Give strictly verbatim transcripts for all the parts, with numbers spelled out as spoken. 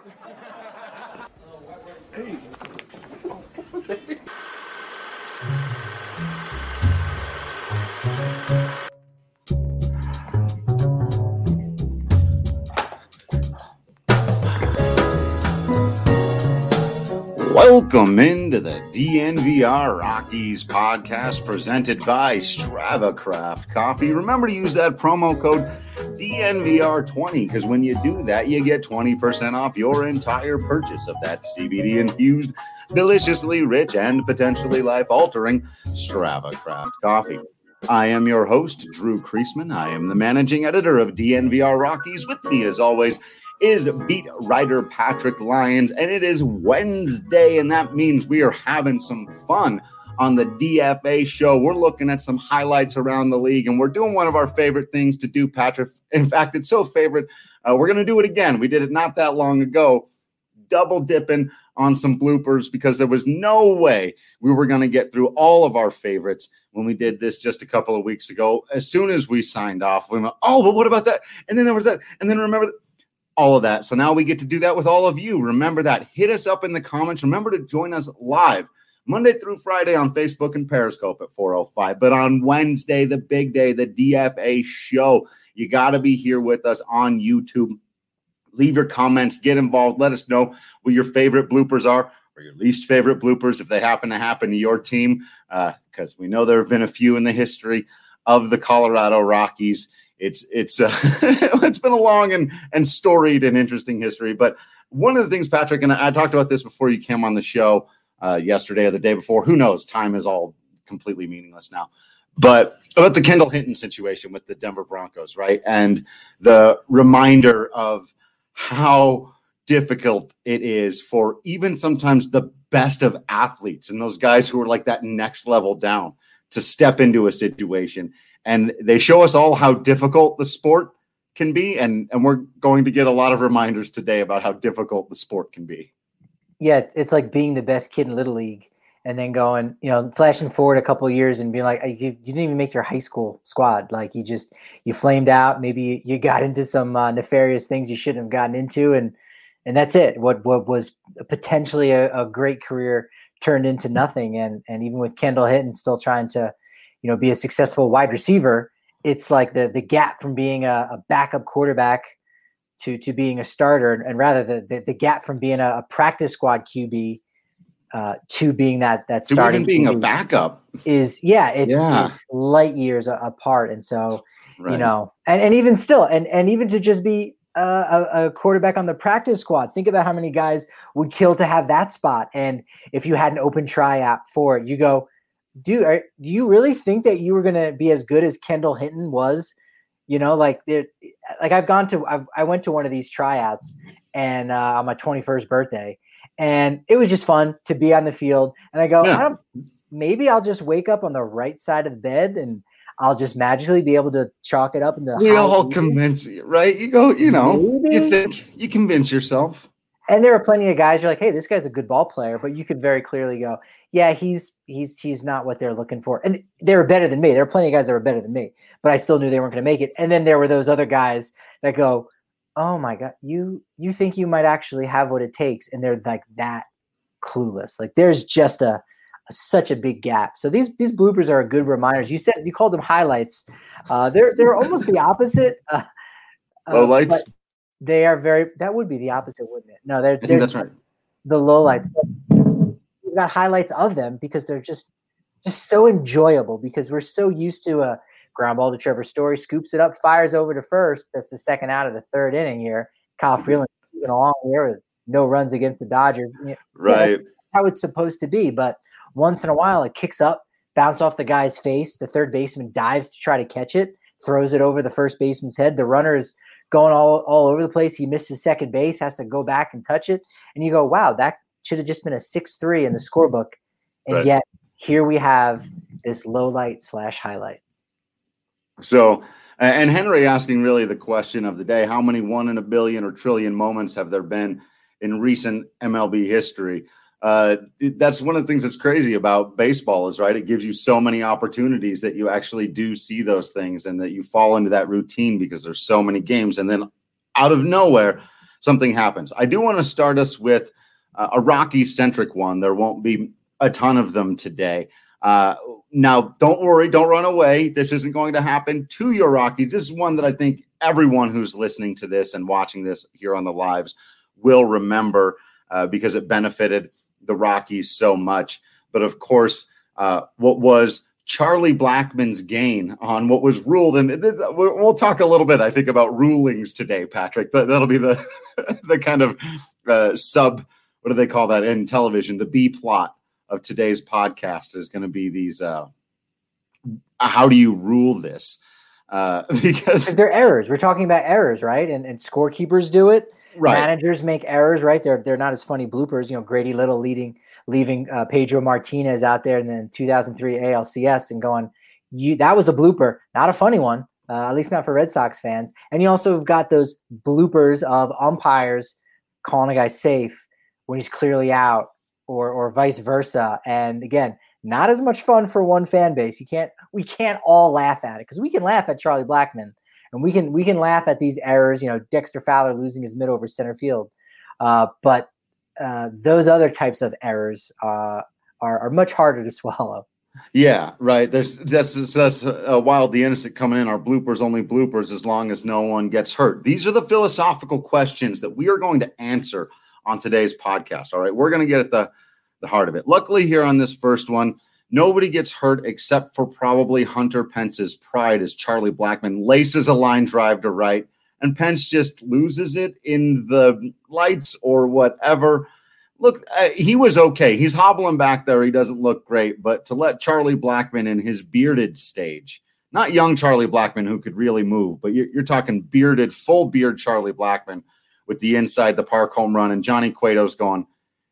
Hey. Welcome into the D N V R Rockies podcast presented by StravaCraft Coffee. Remember to use that promo code D N V R twenty because when you do that, you get twenty percent off your entire purchase of that C B D-infused, deliciously rich, and potentially life-altering StravaCraft Coffee. I am your host, Drew Kreisman. I am the managing editor of D N V R Rockies. With me, as always, is beat writer Patrick Lyons, and it is Wednesday, and that means we are having some fun on the D F A show. We're looking at some highlights around the league, and we're doing one of our favorite things to do, Patrick. In fact, it's so favorite, uh, we're going to do it again. We did it not that long ago, double dipping on some bloopers because there was no way we were going to get through all of our favorites when we did this just a couple of weeks ago. As soon as we signed off, we went, oh, but what about that? And then there was that, and then remember that. All of that. So now we get to do that with all of you. Remember that. Hit us up in the comments. Remember to join us live Monday through Friday on Facebook and Periscope at four oh five. But on Wednesday, the big day, the D F A show, you got to be here with us on YouTube. Leave your comments. Get involved. Let us know what your favorite bloopers are or your least favorite bloopers if they happen to happen to your team, because uh, we know there have been a few in the history of the Colorado Rockies. It's it's uh, it's been a long and, and storied and interesting history. But one of the things, Patrick, and I, I talked about this before you came on the show uh, yesterday or the day before. Who knows? Time is all completely meaningless now. But about the Kendall Hinton situation with the Denver Broncos, right? And the reminder of how difficult it is for even sometimes the best of athletes and those guys who are like that next level down to step into a situation. And they show us all how difficult the sport can be. And, and we're going to get a lot of reminders today about how difficult the sport can be. Yeah, it's like being the best kid in Little League and then going, you know, flashing forward a couple of years and being like, you, you didn't even make your high school squad. Like you just, you flamed out. Maybe you got into some uh, nefarious things you shouldn't have gotten into. And and that's it. What what was potentially a, a great career turned into nothing. And and even with Kendall Hinton still trying to, you know, be a successful wide receiver, it's like the the gap from being a, a backup quarterback to to being a starter, and rather the the, the gap from being a, a practice squad Q B uh, to being that that to starting even being Q B a backup is yeah, it's, yeah. it's light years apart. And so right. you know, and, and even still, and and even to just be uh, a, a quarterback on the practice squad, think about how many guys would kill to have that spot. And if you had an open tryout for it, you go, Dude, are, do you really think that you were going to be as good as Kendall Hinton was? You know, like, like I've gone to, I've, I went to one of these tryouts and uh, on my twenty-first birthday, and it was just fun to be on the field. And I go, yeah. I don't, maybe I'll just wake up on the right side of the bed and I'll just magically be able to chalk it up in the. We all convince you, right? You go, you know, maybe. You think you convince yourself. And there are plenty of guys you're like, hey, this guy's a good ball player, but you could very clearly go, yeah, he's he's he's not what they're looking for. And they were better than me. There are plenty of guys that were better than me, but I still knew they weren't going to make it. And then there were those other guys that go, oh my God, you you think you might actually have what it takes, and they're like that clueless. Like there's just a, a such a big gap. So these these bloopers are good reminders. You said you called them highlights. Uh, they're they're almost the opposite. Uh, Low lights. They are very. That would be the opposite, wouldn't it? No, they're. I think that's right. The lowlights. We've got highlights of them because they're just, just so enjoyable. Because we're so used to a ground ball to Trevor Story, scoops it up, fires over to first. That's the second out of the third inning here. Kyle Freeland keeping along here with no runs against the Dodgers. Right. Yeah, that's how it's supposed to be. But once in a while, it kicks up, bounce off the guy's face. The third baseman dives to try to catch it, throws it over the first baseman's head. The runner is going all, all over the place. He missed his second base, has to go back and touch it. And you go, wow, that should have just been a six three in the scorebook. And right. Yet here we have this low light slash highlight. So, and Henry asking really the question of the day, how many one in a billion or trillion moments have there been in recent M L B history? Uh, that's one of the things that's crazy about baseball is, right, it gives you so many opportunities that you actually do see those things and that you fall into that routine because there's so many games. And then out of nowhere, something happens. I do want to start us with uh, a Rocky-centric one. There won't be a ton of them today. Uh, now, don't worry, don't run away. This isn't going to happen to your Rockies. This is one that I think everyone who's listening to this and watching this here on the lives will remember uh, because it benefited the Rockies so much. But of course, uh, what was Charlie Blackmon's gain on what was ruled, and this, we'll talk a little bit, I think, about rulings today, Patrick. That, that'll be the the kind of uh, sub, what do they call that in television? The B plot of today's podcast is going to be these, uh, how do you rule this? Uh, because they're errors. We're talking about errors, right? And and scorekeepers do it. Right. Managers make errors, right? They're they're not as funny bloopers. You know, Grady Little leading, leaving uh, Pedro Martinez out there in the two thousand three A L C S and going, you that was a blooper, not a funny one, uh, at least not for Red Sox fans. And you also have got those bloopers of umpires calling a guy safe when he's clearly out, or or vice versa. And again, not as much fun for one fan base. You can't we can't all laugh at it, because we can laugh at Charlie Blackmon and we can we can laugh at these errors, you know, Dexter Fowler losing his mid over center field. Uh, but uh, those other types of errors uh, are, are much harder to swallow. Yeah, right. There's that's that's uh, wildly innocent coming in. Our bloopers only bloopers as long as no one gets hurt. These are the philosophical questions that we are going to answer on today's podcast. All right, we're going to get at the the heart of it. Luckily, here on this first one, nobody gets hurt except for probably Hunter Pence's pride as Charlie Blackmon laces a line drive to right, and Pence just loses it in the lights or whatever. Look, uh, he was okay. He's hobbling back there. He doesn't look great, but to let Charlie Blackmon in his bearded stage, not young Charlie Blackmon who could really move, but you're, you're talking bearded, full beard Charlie Blackmon with the inside the park home run, and Johnny Cueto's going,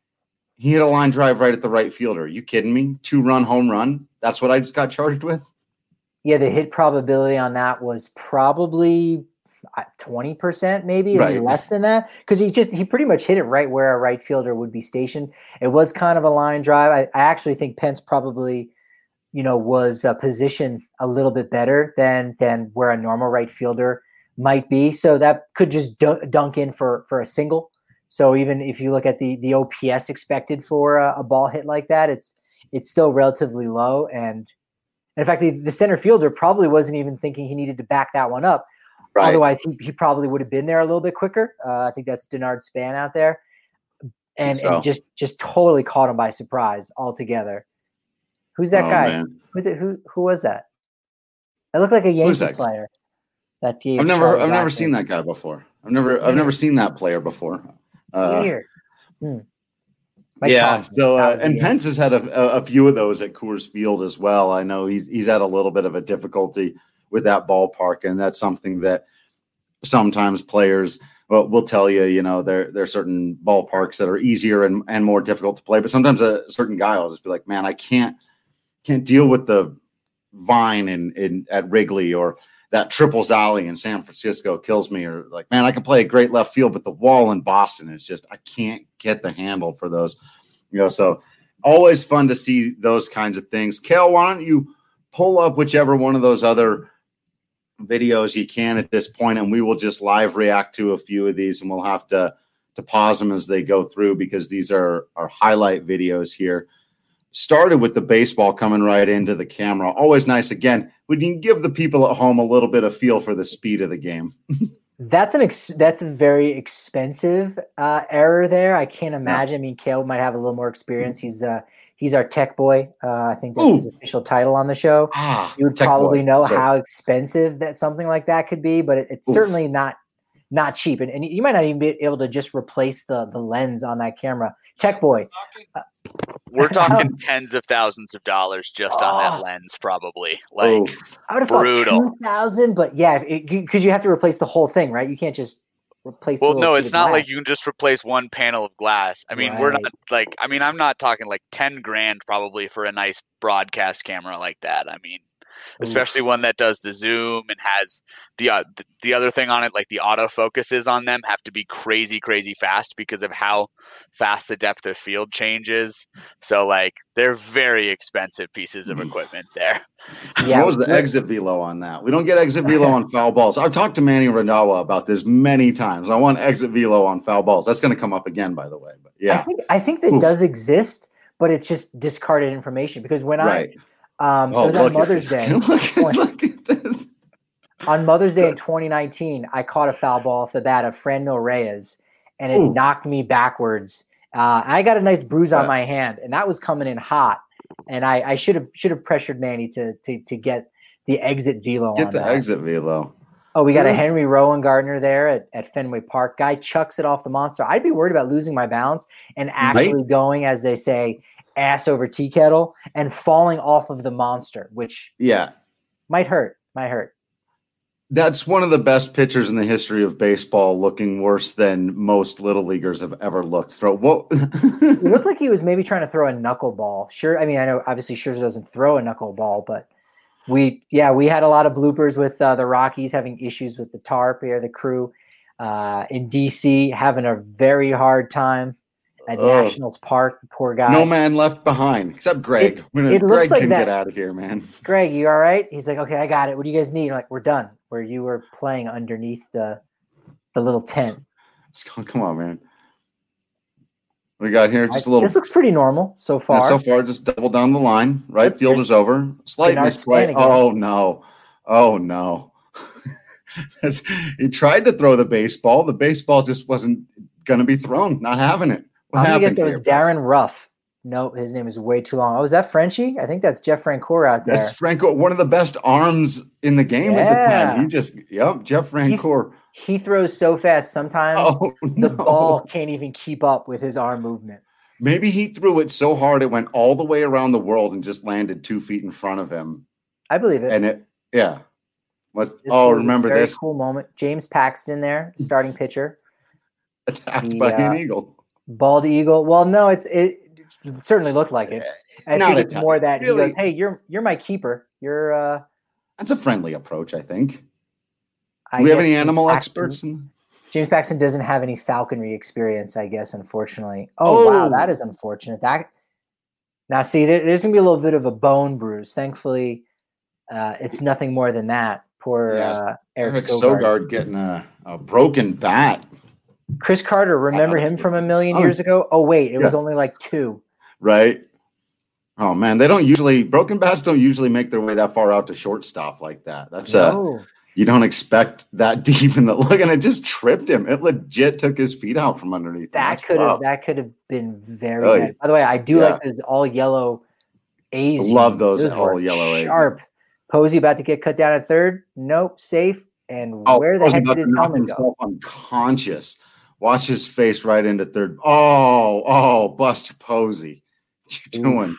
he hit a line drive right at the right fielder. Are you kidding me? Two-run home run? That's what I just got charged with? Yeah, the hit probability on that was probably twenty percent, maybe, right. less than that, because he just he pretty much hit it right where a right fielder would be stationed. It was kind of a line drive. I, I actually think Pence probably, you know, was uh, positioned a little bit better than than where a normal right fielder might be. So that could just dunk, dunk in for for a single. So even if you look at the the O P S expected for a, a ball hit like that, it's it's still relatively low. And in fact, the, the center fielder probably wasn't even thinking he needed to back that one up. Right. Otherwise, he, he probably would have been there a little bit quicker. Uh, I think that's Denard Span out there, and so. and just just totally caught him by surprise altogether. Who's that oh, guy? Man. Who, the, who who was that? That looked like a Yankee that player. That gave I've never Charlie I've never Blackmon. seen that guy before. I've never I've never seen that player before. Uh, Weird. Hmm. Yeah. So uh, and Pence has had a, a few of those at Coors Field as well. I know he's he's had a little bit of a difficulty with that ballpark, and that's something that sometimes players will, will tell you. You know, there there are certain ballparks that are easier and, and more difficult to play, but sometimes a certain guy will just be like, "Man, I can't can't deal with the vine in, in at Wrigley, or that triples alley in San Francisco kills me," or like, "Man, I can play a great left field, but the wall in Boston is just I can't get the handle for those." You know, so always fun to see those kinds of things. Kale, why don't you pull up whichever one of those other videos you can at this point, and we will just live react to a few of these, and we'll have to to pause them as they go through, because these are our highlight videos here. Started with the baseball coming right into the camera. Always nice. Again, we can give the people at home a little bit of feel for the speed of the game. That's an ex- that's a very expensive uh, error there. I can't imagine. Yeah. I mean, Kale might have a little more experience. He's uh he's our tech boy. Uh, I think that's Ooh. his official title on the show. Ah, you would probably boy. know Sorry. how expensive that something like that could be, but it, it's Oof. certainly not not cheap. And, and you might not even be able to just replace the the lens on that camera. Tech boy. Uh, We're talking tens of thousands of dollars just oh. on that lens, probably. Like, oh. I would have brutal. thought two thousand, but yeah, because you have to replace the whole thing, right? You can't just replace. Well, the no, it's not glass. like you can just replace one panel of glass. I mean, right. we're not like. I mean, I'm not talking like ten grand probably for a nice broadcast camera like that. I mean, especially one that does the zoom and has the, uh, the the other thing on it, like the autofocuses on them have to be crazy, crazy fast because of how fast the depth of field changes. So like they're very expensive pieces of equipment there. Yeah, what was the exit velo on that? We don't get exit velo on foul balls. I've talked to Manny Randawa about this many times. I want exit velo on foul balls. That's going to come up again, by the way. But yeah, I think I think that Oof. does exist, but it's just discarded information because when right. I um, oh, it was on Mother's Day. look, at, look at this. On Mother's Day in twenty nineteen, I caught a foul ball off the bat of Franmil Reyes, and it Ooh. knocked me backwards. Uh, I got a nice bruise on my hand, and that was coming in hot. And I, I should have should have pressured Manny to to to get the exit velo. Get on the that. exit velo. Oh, we got a Henry Rowan Gardner there at, at Fenway Park. Guy chucks it off the monster. I'd be worried about losing my balance and actually right? going, as they say, ass over tea kettle and falling off of the monster, which yeah might hurt. Might hurt. That's one of the best pitchers in the history of baseball, looking worse than most little leaguers have ever looked. Throw what? It looked like he was maybe trying to throw a knuckleball. Sure, I mean, I know obviously Scherzer doesn't throw a knuckleball, but we, yeah, we had a lot of bloopers with uh, the Rockies having issues with the tarp here, the crew uh, in D C having a very hard time at oh. Nationals Park. The poor guy. No man left behind except Greg. It, gonna, it Greg like can that. get out of here, man. Greg, you all right? He's like, okay, I got it. What do you guys need? I'm like, we're done. Where you were playing underneath the the little tent. Come on, man. We got here just a little. This looks pretty normal so far. Yeah, so far, just double down the line. Right field is over. Slight misplay. Oh no! Oh no! He tried to throw the baseball. The baseball just wasn't going to be thrown. Not having it. What I'm happened? That was Darren Ruff. No, his name is way too long. Oh, is that Frenchie? I think that's Jeff Francoeur out there. That's Francoeur, one of the best arms in the game yeah. at the time. He just, yep, Jeff Francoeur. He, he throws so fast sometimes oh, the no. ball can't even keep up with his arm movement. Maybe he threw it so hard it went all the way around the world and just landed two feet in front of him. I believe it. And it, yeah. Let's, oh, remember a very this. Cool moment. James Paxton there, starting pitcher. Attacked the, by uh, an eagle. Bald eagle. Well, no, it's it. It certainly looked like it. I Not think it's time. more that really? he goes, "Hey, you're you're my keeper. You're." uh That's a friendly approach, I think. I Do we have any James animal Paxton, experts? In... James Paxton doesn't have any falconry experience, I guess. Unfortunately. Oh, oh. wow, that is unfortunate. That now, see, there, there's gonna be a little bit of a bone bruise. Thankfully, uh, it's nothing more than that. Poor yes. uh, Eric, Eric Sogard. Sogard getting a, a broken bat. Chris Carter, remember him from a million years oh. ago? Oh, wait, it yeah. was only like two. Right. Oh man, they don't usually broken bats don't usually make their way that far out to shortstop like that. That's no. uh you don't expect that deep in the look, and it just tripped him. It legit took his feet out from underneath. That could have that could have been very oh, bad. By the way, I do yeah. like those all yellow A's. I love those, those all yellow A's. Sharp. Posey about to get cut down at third. Nope, safe. And oh, where the Posey heck did his helmet go? Unconscious. Watch his face right into third. Oh, oh, Buster Posey. What you doing? Oof.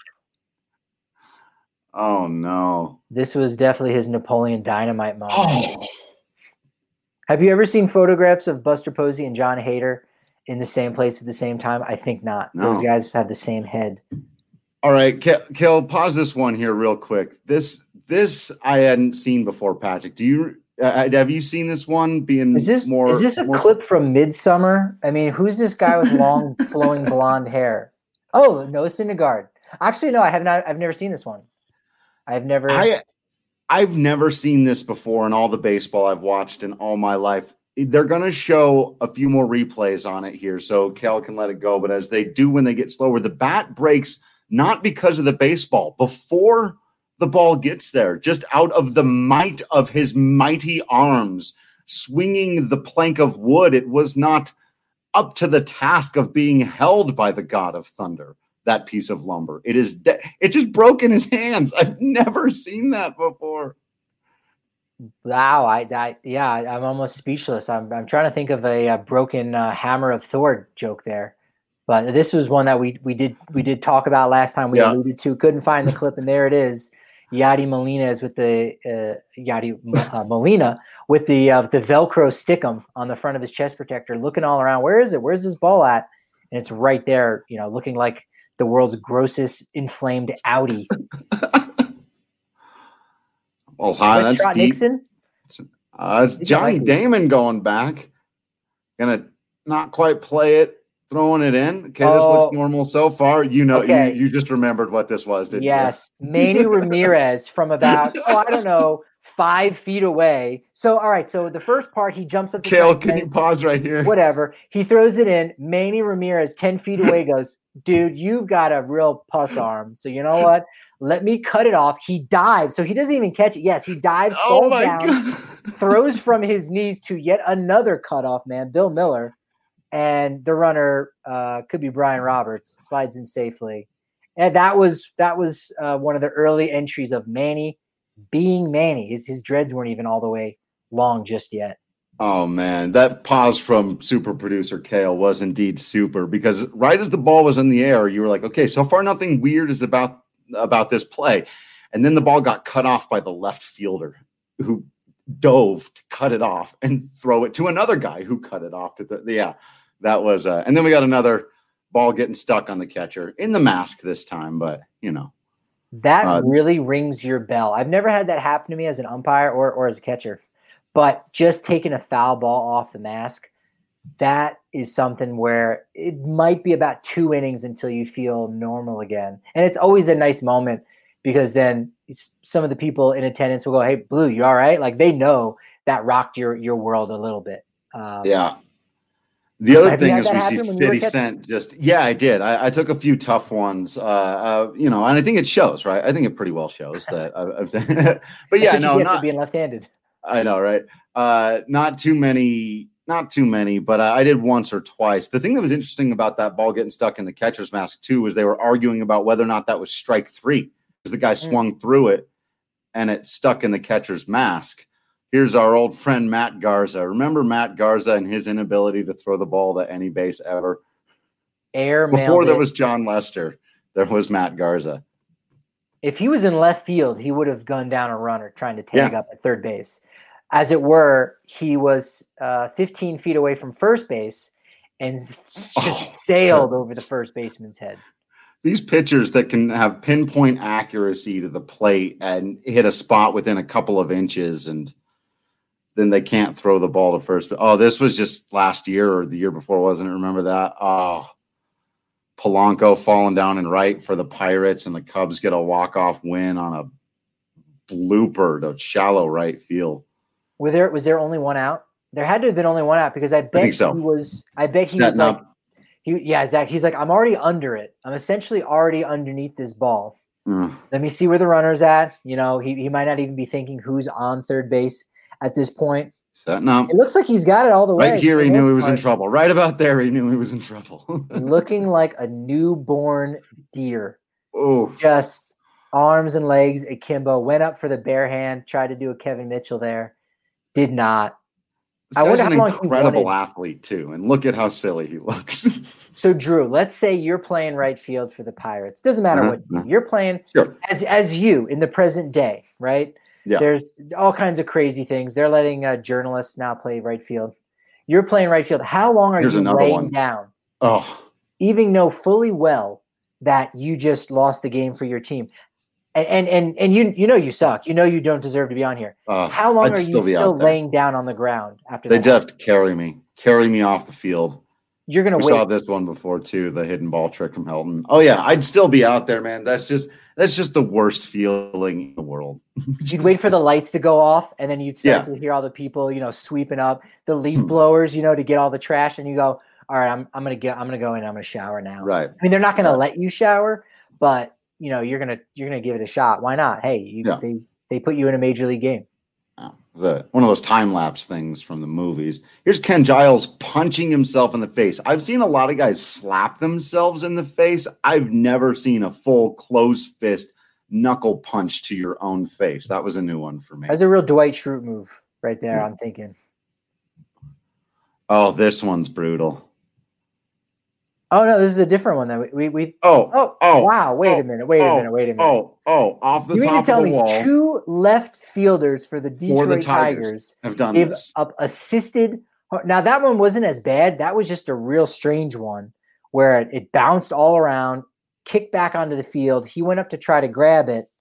Oh, no. This was definitely his Napoleon Dynamite moment. Oh. Have you ever seen photographs of Buster Posey and John Hader in the same place at the same time? I think not. No. Those guys have the same head. All right, Kel, pause this one here real quick. This this I hadn't seen before, Patrick. Do you uh, have you seen this one being is this, more? Is this a more... clip from Midsummer? I mean, who's this guy with long flowing blonde hair? Oh, Noah Syndergaard. Actually, no, I have not. I've never seen this one. I've never. I, I've never seen this before in all the baseball I've watched in all my life. They're going to show a few more replays on it here, so Kel can let it go. But as they do when they get slower, the bat breaks not because of the baseball. Before the ball gets there, just out of the might of his mighty arms, swinging the plank of wood, it was not up to the task of being held by the god of thunder. That piece of lumber. It is. De- it just broke in his hands. I've never seen that before. Wow. I, I yeah. I'm almost speechless. I'm. I'm trying to think of a, a broken uh, hammer of Thor joke there, but this was one that we we did we did talk about last time. We yeah. alluded to. Couldn't find the clip, and there it is. Yadi Molina is with the uh, Yadi uh, Molina with the uh, the Velcro stickum on the front of his chest protector, looking all around. Where is it? Where's this ball at? And it's right there. You know, looking like the world's grossest inflamed Audi. Ball's high. That's Trot deep. Nixon? Uh, it's Johnny Damon going back. Gonna not quite play it, throwing it in. Okay, this Oh, looks normal so far. You know, okay. you, you just remembered what this was, didn't yes. you? Yes. Manny Ramirez from about, oh, I don't know, five feet away. So, all right. So the first part, he jumps up. Kale, can you pause right here? Whatever. He throws it in. Manny Ramirez, ten feet away, goes, dude, you've got a real puss arm. So you know what? Let me cut it off. He dives. So he doesn't even catch it. Yes, he dives, oh falls my down, God. throws from his knees to yet another cutoff man, Bill Miller. And the runner uh, could be Brian Roberts, slides in safely. And that was that was uh, one of the early entries of Manny being Manny. His, his dreads weren't even all the way long just yet. Oh, man, that pause from super producer Kale was indeed super, because right as the ball was in the air, you were like, okay, so far nothing weird is about about this play. And then the ball got cut off by the left fielder who dove to cut it off and throw it to another guy who cut it off. To the, yeah, that was uh, – and then we got another ball getting stuck on the catcher in the mask this time, but, you know. That uh, really rings your bell. I've never had that happen to me as an umpire or, or as a catcher. But just taking a foul ball off the mask, that is something where it might be about two innings until you feel normal again. And it's always a nice moment because then some of the people in attendance will go, hey, Blue, you all right? Like they know that rocked your, your world a little bit. Um, yeah. The other thing is we see fifty Cent just – yeah, I did. I, I took a few tough ones, uh, uh, you know, and I think it shows, right? I think it pretty well shows that. I've, I've but, yeah, no, not – being left-handed. I know, right? Uh, not too many, not too many, but I, I did once or twice. The thing that was interesting about that ball getting stuck in the catcher's mask too was they were arguing about whether or not that was strike three because the guy swung through it and it stuck in the catcher's mask. Here's our old friend Matt Garza. Remember Matt Garza and his inability to throw the ball to any base ever? Air Before there it. was John Lester, there was Matt Garza. If he was in left field, he would have gone down a runner trying to tag Yeah. up at third base. As it were, he was uh, fifteen feet away from first base and just Oh, sailed God. over the first baseman's head. These pitchers that can have pinpoint accuracy to the plate and hit a spot within a couple of inches, and then they can't throw the ball to first. Oh, this was just last year or the year before, wasn't it? Remember that? Oh, Polanco falling down in right for the Pirates, and the Cubs get a walk-off win on a blooper to shallow right field. Were there was there only one out? There had to have been only one out because I bet I think so. he was. I bet he Setting was like, up. he yeah, Zach. He's like, I'm already under it. I'm essentially already underneath this ball. Mm. Let me see where the runner's at. You know, he he might not even be thinking who's on third base at this point. Setting up. It looks like he's got it all the way. Right here, he For the knew he most was in part. trouble. Right about there, he knew he was in trouble. Looking like a newborn deer. Oh, Just arms and legs akimbo. Went up for the bare hand. Tried to do a Kevin Mitchell there. Did not. this I guy's wonder an how long he incredible wanted- athlete too, and look at how silly he looks. So Drew, let's say you're playing right field for the Pirates. Doesn't matter Uh-huh, what team. uh-huh. You're playing Sure. as as you in the present day, right? Yeah. There's all kinds of crazy things. They're letting uh, journalists now play right field. You're playing right field. How long are Here's you another laying one. down? Oh, Even know fully well that you just lost the game for your team. And and and, and you you know you suck. You know you don't deserve to be on here. uh, How long I'd are you still be still out there. laying down on the ground after They that? just have to carry me, carry me off the field. You're gonna We wait. saw this one before too, the hidden ball trick from Helton. Oh yeah, I'd still be out there, man. That's just that's just the worst feeling in the world. You'd wait for the lights to go off, and then you'd start Yeah. to hear all the people, you know, sweeping up the leaf Hmm. blowers, you know, to get all the trash. And you go, "All right, I'm I'm gonna get I'm gonna go in. I'm gonna shower now." Right. I mean, they're not gonna Right. let you shower, but you know, you're gonna you're gonna give it a shot. Why not? Hey, you, Yeah. they they put you in a major league game. Oh, the one of those time lapse things from the movies. Here's Ken Giles punching himself in the face. I've seen a lot of guys slap themselves in the face. I've never seen a full closed fist knuckle punch to your own face. That was a new one for me. That's a real Dwight Schrute move right there. Hmm. I'm thinking. Oh, this one's brutal. Oh no, this is a different one. That we we, we Oh, oh oh, wow. Wait oh, a minute. Wait oh, a minute. Wait a minute. oh, oh, off the you mean top to tell of the me wall two left fielders for the for Detroit the Tigers, Tigers have done gave this. up assisted. Now that one wasn't as bad. That was just a real strange one where it, it bounced all around, kicked back onto the field. He went up to try to grab it,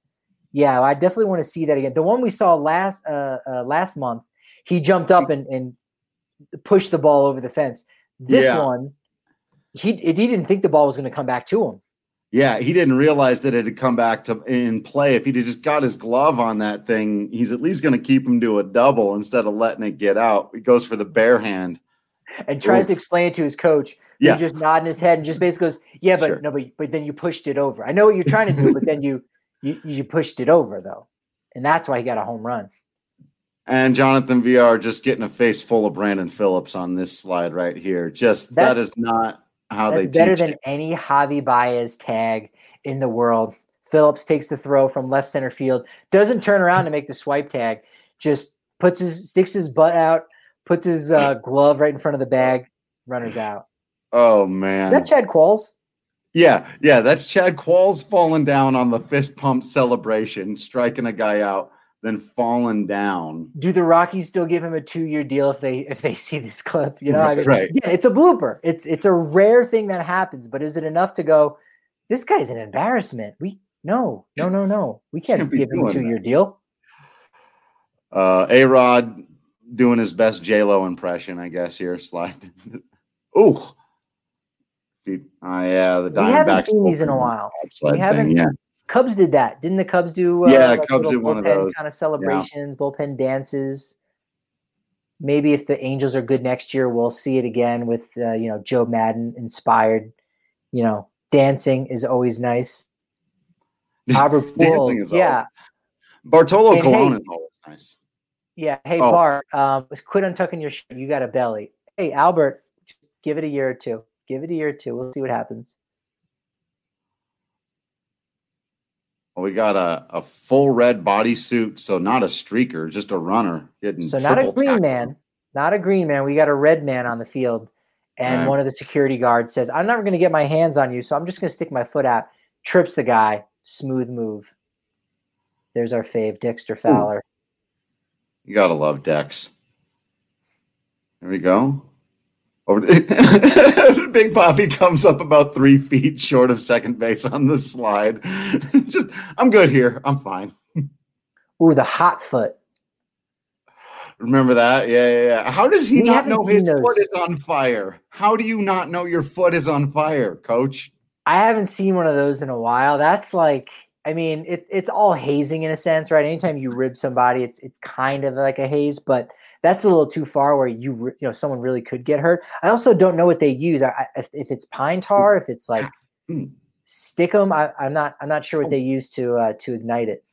Yeah, I definitely want to see that again. The one we saw last uh, uh, last month, he jumped up and, and pushed the ball over the fence. This Yeah. one, he he didn't think the ball was going to come back to him. Yeah, he didn't realize that it had come back to in play. If he'd have just got his glove on that thing, he's at least going to keep him to a double instead of letting it get out. He goes for the bare hand. And tries Oof. to explain it to his coach. Yeah. He's just nodding his head and just basically goes, yeah, but Sure. no, but, but then you pushed it over. I know what you're trying to do, but then you, you you pushed it over, though. And that's why he got a home run. And Jonathan V R just getting a face full of Brandon Phillips on this slide right here. Just That's, that is not how that's they better teach than it. any Javi Baez tag in the world. Phillips takes the throw from left center field, doesn't turn around to make the swipe tag, just puts his sticks his butt out, puts his uh, glove right in front of the bag, runners out. Oh, Is man. that Chad Qualls? Yeah, yeah, that's Chad Qualls falling down on the fist pump celebration, striking a guy out, then falling down. Do the Rockies still give him a two-year deal if they if they see this clip? You know, I mean, Right. yeah, it's a blooper. It's it's a rare thing that happens, but is it enough to go, this guy's an embarrassment? We no, no, no, no. We can't, Can't be give him a doing two-year that. deal. Uh, A-Rod doing his best J-Lo impression, I guess, here. Slide. Ooh. Feet. Oh, yeah, the We haven't Diamondbacks. seen these in a while. Slide We haven't. thing, yeah. Cubs did that. Didn't the Cubs do uh, Yeah, like Cubs little did one of bullpen those. kind of celebrations, bullpen dances? Maybe if the Angels are good next year, we'll see it again with uh, you know, Joe Madden inspired. You know, dancing is always nice. Albert Dancing Pujols, is yeah, always. Bartolo And Colon hey- is always nice. yeah. Hey Oh. Bart, um, quit untucking your shirt. You got a belly. Hey Albert, just give it a year or two. Give it a year or two. We'll see what happens. Well, we got a, a full red bodysuit, so not a streaker, just a runner getting So not a triple green tackled. man, not a green man. We got a red man on the field, and Right. one of the security guards says, "I'm never going to get my hands on you, so I'm just going to stick my foot out." Trips the guy. Smooth move. There's our fave, Dexter Fowler. You gotta love Dex. There we go. Over to, Big Poppy comes up about three feet short of second base on the slide. Just, I'm good here. I'm fine. Ooh, the hot foot. Remember that? Yeah, yeah, yeah. How does he We not haven't know seen his those. foot is on fire? How do you not know your foot is on fire, Coach? I haven't seen one of those in a while. That's like, I mean, it, it's all hazing in a sense, right? Anytime you rib somebody, it's it's kind of like a haze, but that's a little too far where you re- you know someone really could get hurt. I also don't know what they use. I, I, if, if it's pine tar, if it's like Hmm. stickum, I, I'm not I'm not sure what they use to uh, to ignite it.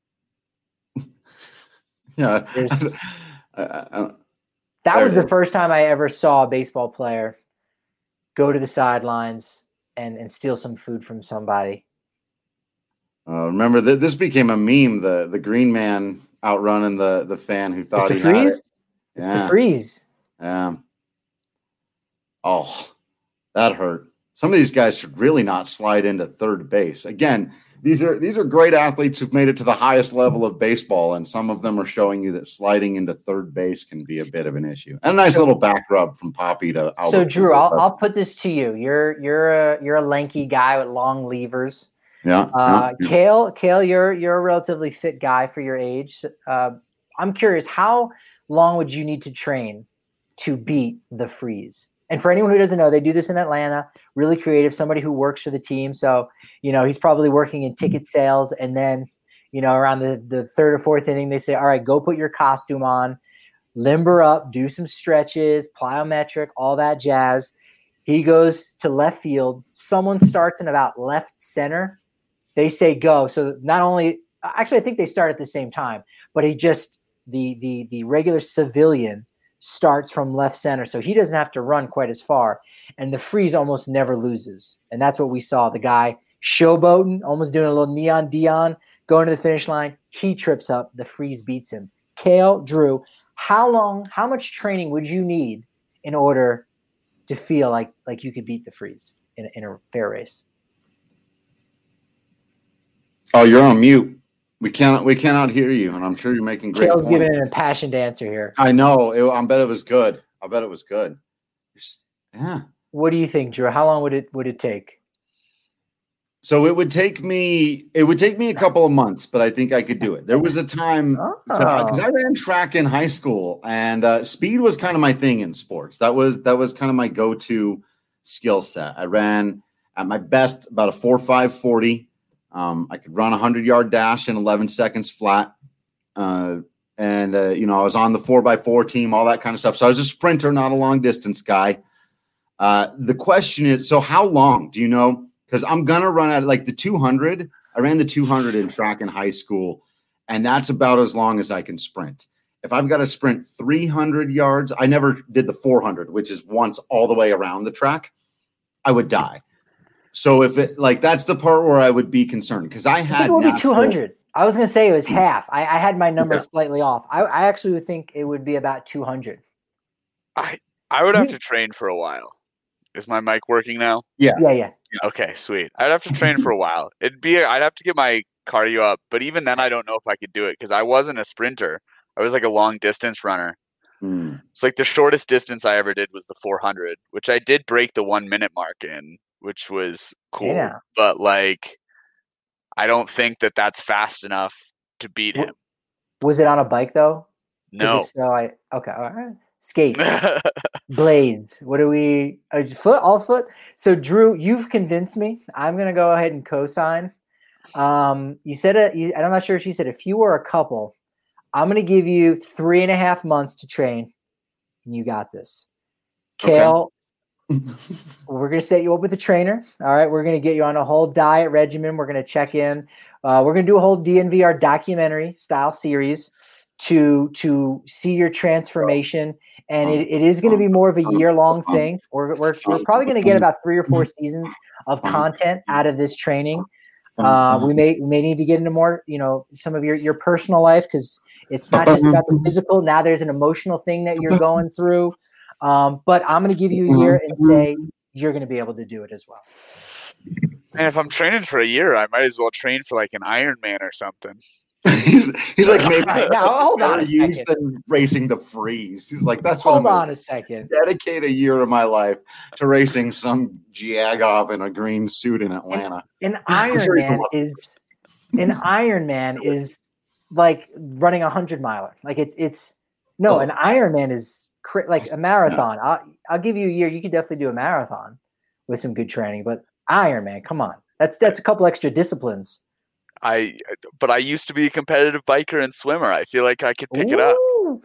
Yeah. There's- I- I- I- That There was it the is. first time I ever saw a baseball player go to the sidelines and and steal some food from somebody. Uh, remember that this became a meme. The the green man outrunning the the fan who It's thought the he had freeze. it. It's Yeah. the freeze. Um. Oh, that hurt. Some of these guys should really not slide into third base. Again, these are these are great athletes who've made it to the highest level of baseball, and some of them are showing you that sliding into third base can be a bit of an issue. And a nice little back rub from Poppy to Albert. So Drew, Pujols. I'll, That's I'll nice. put this to you. You're you're a you're a lanky guy with long levers. Yeah. Uh, yeah. Kale, Kale, you're you're a relatively fit guy for your age. Uh, I'm curious, how long would you need to train to beat the freeze? And for anyone who doesn't know, they do this in Atlanta. Really creative. Somebody who works for the team, so you know he's probably working in ticket sales. And then, you know, around the the third or fourth inning, they say, "All right, go put your costume on, limber up, do some stretches, plyometric, all that jazz." He goes to left field. Someone starts in about left center. They say go. So not only actually, I think they start at the same time, but he just the the the regular civilian starts from left center, so he doesn't have to run quite as far. And the freeze almost never loses, and that's what we saw. The guy showboating, almost doing a little neon Dion, going to the finish line. He trips up. The freeze beats him. Kale, Drew, how long? How much training would you need in order to feel like like you could beat the freeze in a, in a fair race? Oh, you're on mute. We cannot. We cannot hear you, and I'm sure you're making great Kale's points. giving an impassioned answer here. I know. It, I bet it was good. I bet it was good. Yeah. What do you think, Drew? How long would it would it take? So it would take me it would take me a couple of months, but I think I could do it. There was a time because Oh. I ran track in high school, and uh, speed was kind of my thing in sports. That was that was kind of my go-to skill set. I ran at my best about a four five forty. Um, I could run a hundred yard dash in eleven seconds flat, uh, and uh, you know I was on the four by four team, all that kind of stuff. So I was a sprinter, not a long distance guy. Uh, the question is, so how long do you know? Because I'm going to run at like the two hundred. I ran the two hundred in track in high school, and that's about as long as I can sprint. If I've got to sprint three hundred yards, I never did the four hundred, which is once all the way around the track, I would die. So if it like that's the part where I would be concerned because I had I think it would natural, be two hundred. I was going to say it was half. I, I had my number Yeah. slightly off. I, I actually would think it would be about two hundred. I I would have You- to train for a while. Is my mic working now? Yeah, yeah. Okay, sweet. I'd have to train for a while. It'd be I'd have to get my cardio up, but even then I don't know if I could do it because I wasn't a sprinter. I was like a long distance runner. Hmm. It's like the shortest distance I ever did was the four hundred, which I did break the one minute mark in, which was cool. Yeah. But like, I don't think that that's fast enough to beat him. Was it on a bike though? 'Cause No. If so, I okay. All right. Skates, blades. What do we? Uh, foot, all foot. So Drew, you've convinced me. I'm gonna go ahead and co-sign. Um, you said a. You, I'm not sure if you said a few or a couple. I'm gonna give you three and a half months to train. And you got this, Okay. Kale. We're gonna set you up with a trainer. All right, we're gonna get you on a whole diet regimen. We're gonna check in. Uh, we're gonna do a whole D N V R documentary style series to to see your transformation, and it, it is gonna be more of a year long thing. We're we're, we're probably gonna get about three or four seasons of content out of this training. Uh, we may we may need to get into more, you know, some of your your personal life because it's not just about the physical. Now there's an emotional thing that you're going through. Um, but I'm going to give you a year and say you're going to be able to do it as well. And if I'm training for a year, I might as well train for like an Ironman or something. he's, he's like maybe Right, now, hold on a used second. than racing the freeze. He's like that's what Hold I'm on gonna a second. dedicate a year of my life to racing some Jag-off in a green suit in Atlanta. An I'm sure he's the Ironman one. is an Ironman is like running a hundred miler. Like it's it's no, Oh. an Ironman is cra- like a marathon. I'll I'll give you a year. You could definitely do a marathon with some good training. But Ironman, come on, that's that's a couple extra disciplines. I but I used to be a competitive biker and swimmer. I feel like I could pick it up. Ooh.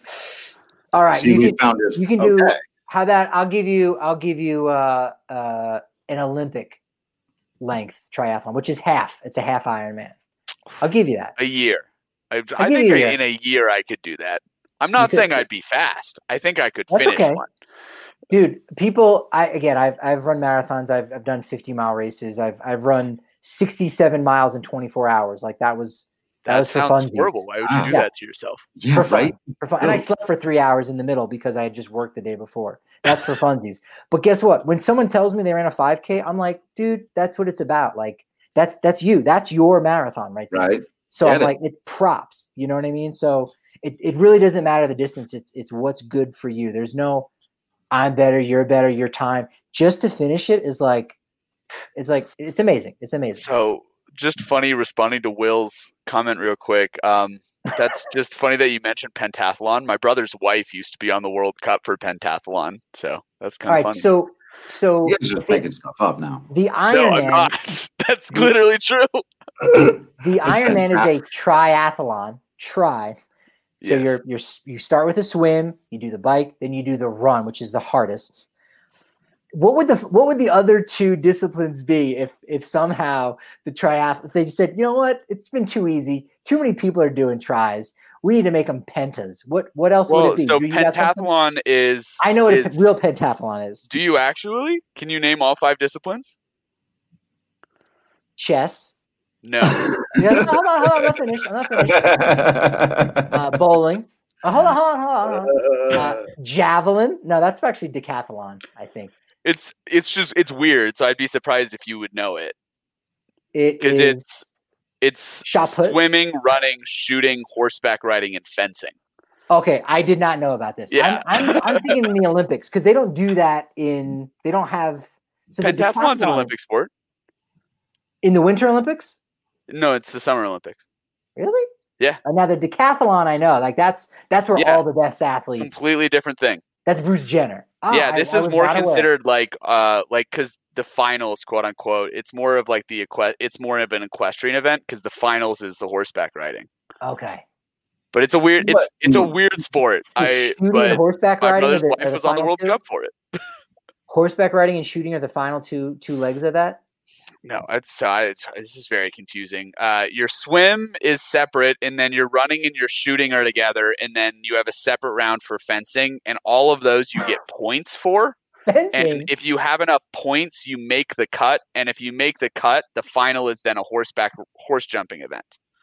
All right, See, you we can, found this. you can do Okay. how that. I'll give you. I'll give you uh, uh, an Olympic length triathlon, which is half. It's a half Ironman. I'll give you that. A year. I, I'll I give think you a I- year. in a year I could do that. I'm not could- saying I'd be fast. I think I could That's finish okay. one. Dude, people. I again. I've I've run marathons. I've I've done fifty mile races. I've I've run sixty-seven miles in twenty-four hours. Like that was that, That was for sounds funsies. horrible. Why would Wow. you do Yeah. that to yourself? Yeah, for fun, right. for fun. And I Really? slept for three hours in the middle because I had just worked the day before. That's for funsies. But guess what? When someone tells me they ran a five K, I'm like, dude, that's what it's about. Like that's that's you. That's your marathon right there. Right. So Get I'm it. like, it's props. You know what I mean? So it, it really doesn't matter the distance. It's it's what's good for you. There's no I'm better, you're better, your time. Just to finish it is like it's like it's amazing. It's amazing. So just funny responding to Will's comment real quick. Um, that's just funny that you mentioned pentathlon. My brother's wife used to be on the World Cup for pentathlon, so that's All kind right, of funny. so so You guys are just the, making stuff up now. the no, I'm Ironman not. That's literally true. the It's Ironman is a triathlon. Try. So Yes. you're you're you start with a swim, you do the bike, then you do the run, which is the hardest. What would the what would the other two disciplines be if if somehow the triathlon if they just said, you know what, it's been too easy, too many people are doing tries, we need to make them pentas. What what else would Well, it be? so Do you got something? pentathlon is. I know what is, a pe- real pentathlon is. Do you actually? Can you name all five disciplines? Chess. No. Yeah, no, hold on, hold on, I'm not finished. I'm not finished. Uh, bowling. Uh, hold on, hold on, hold on. Hold on. Uh, javelin. No, that's actually decathlon, I think. It's it's just it's weird. So I'd be surprised if you would know it It because is it's it's shot put. swimming, running, shooting, horseback riding, and fencing. Okay, I did not know about this. Yeah. I'm, I'm, I'm thinking in the Olympics because they don't do that in. They don't have. So the Pentathlon's an decathlon- Olympic sport. In the Winter Olympics? No, it's the Summer Olympics. Really? Yeah. And now the decathlon, I know, like that's that's where Yeah. all the best athletes. Completely different thing. That's Bruce Jenner. Oh, yeah, this I, I is was more not aware. considered like uh like because the finals, quote unquote, it's more of like the equi- it's more of an equestrian event because the finals is the horseback riding. Okay. But it's a weird it's But- it's a weird sport. So I shooting and but horseback my riding are brother's the, wife are the was on the final World two? Cup for it. Horseback riding and shooting are the final two two legs of that. No, it's, uh, it's this is very confusing. Uh, your swim is separate, and then your running and your shooting are together, and then you have a separate round for fencing, and all of those you get points for. Fencing. And if you have enough points, you make the cut, and if you make the cut, the final is then a horseback horse jumping event.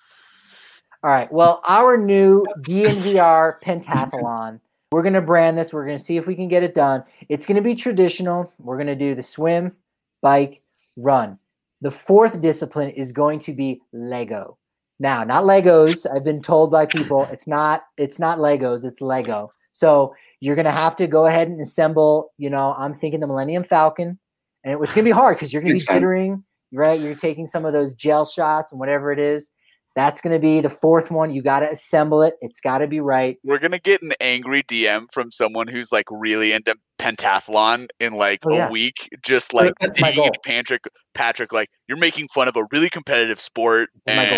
All right. Well, our new D N V R pentathlon. We're gonna brand this. We're gonna see if we can get it done. It's gonna be traditional. We're gonna do the swim, bike, run. The fourth discipline is going to be Lego. Now, not Legos. I've been told by people it's not it's not Legos, it's Lego. So you're gonna have to go ahead and assemble, you know, I'm thinking the Millennium Falcon. And it, it's gonna be hard because you're gonna Makes be sense. jittering, right? You're taking some of those gel shots and whatever it is. That's gonna be the fourth one. You gotta assemble it. It's gotta be right. We're gonna get an angry D M from someone who's like really into pentathlon in like Oh, yeah. a week, just like That's my digging goal. into Patrick. Patrick, like you're making fun of a really competitive sport, That's my goal.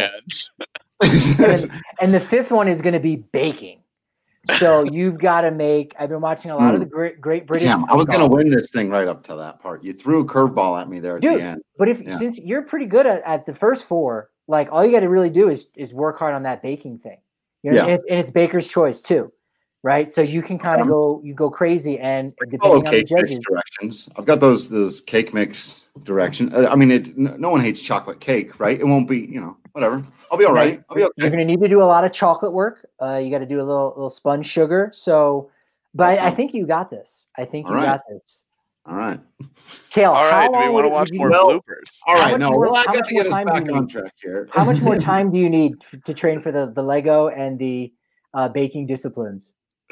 and And, then- and the fifth one is gonna be baking. So you've got to make. I've been watching a lot of the great, great British. Damn, I was going to golf. win this thing right up to that part. You threw a curveball at me there at Dude, the end. But if Yeah. since you're pretty good at, at the first four, like all you got to really do is is work hard on that baking thing. You know, Yeah. and, it, and it's baker's choice too, right? So you can kind of Um, go you go crazy and Follow depending on the cake mix judges. directions. I've got those those cake mix direction. Uh, I mean, it, n- no one hates chocolate cake, right? It won't be, you know, whatever. I'll be all right. I'll be You're okay. going to need to do a lot of chocolate work. Uh, you got to do a little little sponge sugar. So, but I, I Awesome. think you got this. I think All you right. got this. All right. Kale, all how right. Do we long want to would- watch would you- more Well, bloopers? All How right. much No, more- well, I how got much to more get us time do back you on need? track here. How much more time do you need f- to train for the, the Lego and the uh, baking disciplines?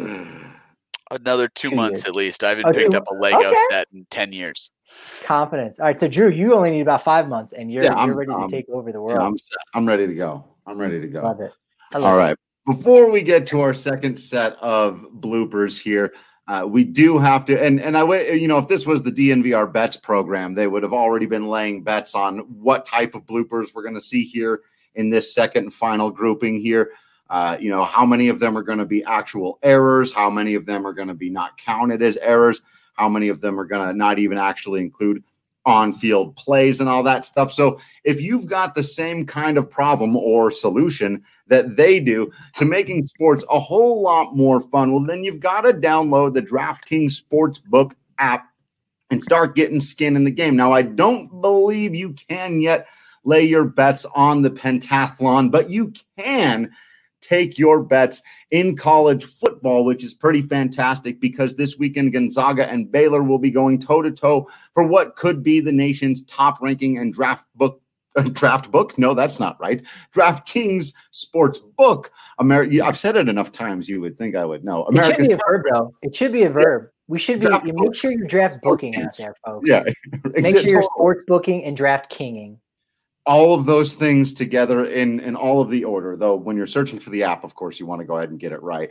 Another two, Two months years. at least. I haven't Oh, picked two- up a Lego okay. set in ten years. Confidence. All right, so Drew, you only need about five months, and you're Yeah, I'm- you're ready to um, take over the Yeah, world. I'm set. I'm ready to go. I'm ready to go. Love it. I love All it. right. Before we get to our second set of bloopers here, uh, we do have to, and and I, wa- you know, if this was the D N V R bets program, they would have already been laying bets on what type of bloopers we're going to see here in this second and final grouping here. Uh, you know, how many of them are going to be actual errors? How many of them are going to be not counted as errors? How many of them are going to not even actually include on-field plays and all that stuff? So if you've got the same kind of problem or solution that they do to making sports a whole lot more fun, well, then you've got to download the DraftKings Sportsbook app and start getting skin in the game. Now, I don't believe you can yet lay your bets on the pentathlon, but you can take your bets in college football, which is pretty fantastic because this weekend Gonzaga and Baylor will be going toe-to-toe for what could be the nation's top ranking and draft book. Draft book? No, that's not right. DraftKings Sports Book. Ameri- I've said it enough times you would think I would know. It should America's be a verb, though. It should be a verb. We should be. Draft You book. make sure your draft's booking out Sports there, folks. yeah. Make sure you're sports booking and draft kinging. all of those things together in, in all of the order, though when you're searching for the app, of course, you want to go ahead and get it right.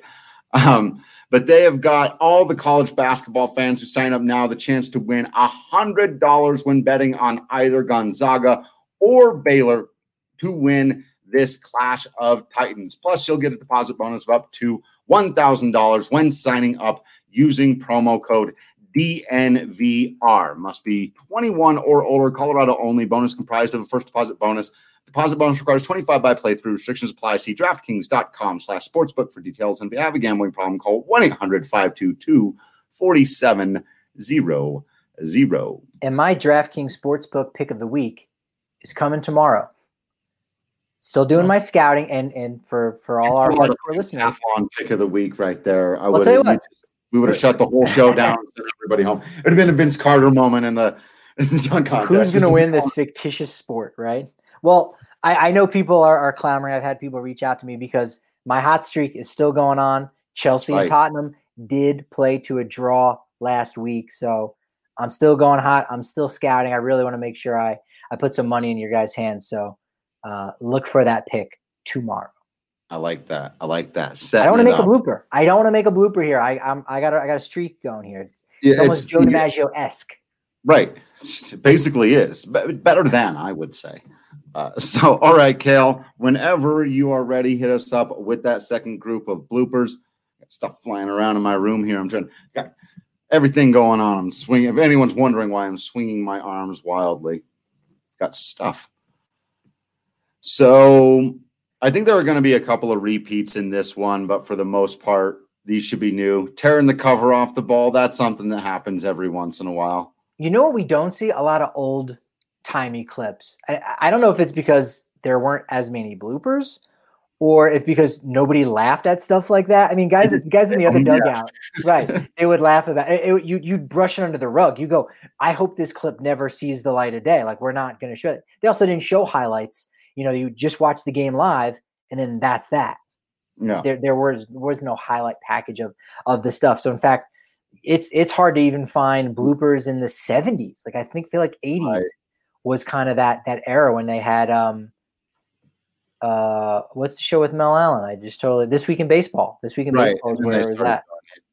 Um, but they have got all the college basketball fans who sign up now the chance to win one hundred dollars when betting on either Gonzaga or Baylor to win this Clash of Titans. Plus, you'll get a deposit bonus of up to one thousand dollars when signing up using promo code D N V R. Must be twenty-one or older, Colorado only. Bonus comprised of a first deposit bonus. Deposit bonus requires twenty-five by playthrough. Restrictions apply. See DraftKings.com slash sportsbook for details. And if you have a gambling problem, call one eight hundred five two two four seven zero zero. And my DraftKings Sportsbook pick of the week is coming tomorrow. Still doing my scouting, and and for, for all our hardcore listeners. Athlon pick of the week right there. I I'll would tell you what. We would have shut the whole show down and sent everybody home. It would have been a Vince Carter moment in the, in the dunk contest. Who's going to win this fictitious sport, right? Well, I, I know people are, are clamoring. I've had people reach out to me because my hot streak is still going on. Chelsea Right. and Tottenham did play to a draw last week, so I'm still going hot. I'm still scouting. I really want to make sure I, I put some money in your guys' hands. So uh, look for that pick tomorrow. I like that. I like that. I don't want to make up. a blooper. I don't want to make a blooper here. I I'm, I got a, I got a streak going here. It's, yeah, it's almost it's, Joe DiMaggio-esque. Right. It basically is. Better than, I would say. Uh, so, all right, Kale, whenever you are ready, hit us up with that second group of bloopers. Got stuff flying around in my room here. I'm trying, got everything going on. I'm swinging. If anyone's wondering why I'm swinging my arms wildly, got stuff. So, I think there are going to be a couple of repeats in this one, but for the most part, these should be new. Tearing the cover off the ball, that's something that happens every once in a while. You know what we don't see? A lot of old timey clips. I, I don't know if it's because there weren't as many bloopers or if because nobody laughed at stuff like that. I mean, guys, guys in the other dugout, right? They would laugh about it. it you, you'd brush it under the rug. You go, I hope this clip never sees the light of day. Like, we're not going to show it. They also didn't show highlights. You know, you just watch the game live and then that's that. No, there, there was, was no highlight package of, of the stuff. So in fact, it's, it's hard to even find bloopers in the seventies. Like, I think feel like eighties. Right. Was kind of that that era when they had um uh what's the show with Mel Allen? I just totally This Week in Baseball. This Week in right. Baseball is where it was at.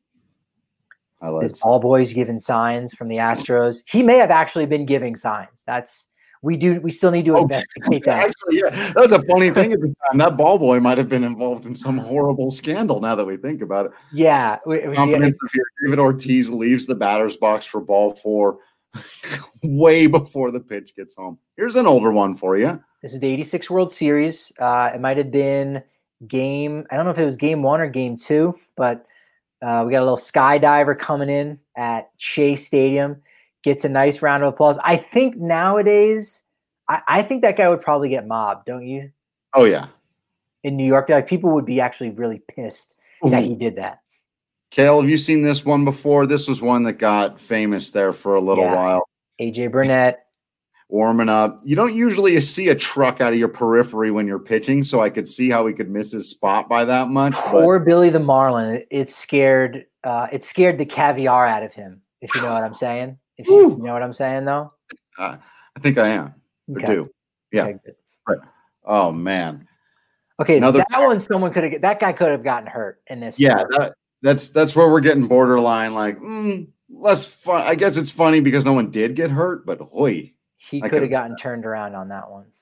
His ball boys giving signs from the Astros. He may have actually been giving signs. That's we do we still need to oh, investigate that. Actually, yeah, that's a funny thing at the time. That ball boy might have been involved in some horrible scandal. Now that we think about it, yeah. Confidence yeah. Here. David Ortiz leaves the batter's box for ball four. Way before the pitch gets home. Here's an older one for you. This is the eighty-six World Series. Uh, it might have been game, I don't know if it was game one or game two, but uh, we got a little skydiver coming in at Shea Stadium, gets a nice round of applause. I think nowadays, I, I think that guy would probably get mobbed, don't you? Oh, yeah. In New York, like people would be actually really pissed Ooh. that he did that. Kale, have you seen this one before? This was one that got famous there for a little yeah. while. A J Burnett. Warming up. You don't usually see a truck out of your periphery when you're pitching, so I could see how he could miss his spot by that much. But... Or Billy the Marlin. It, it scared uh, it scared the caviar out of him, if you know what I'm saying. If you, you know what I'm saying, though? Uh, I think I am. Okay. I do. Yeah. Okay, good. Right. Oh, man. Okay, Another that guy. one someone could have – that guy could have gotten hurt in this. Yeah, that, That's that's where we're getting borderline, like, mm, less fun. I guess it's funny because no one did get hurt, but hoy. He could have gotten turned around on that one.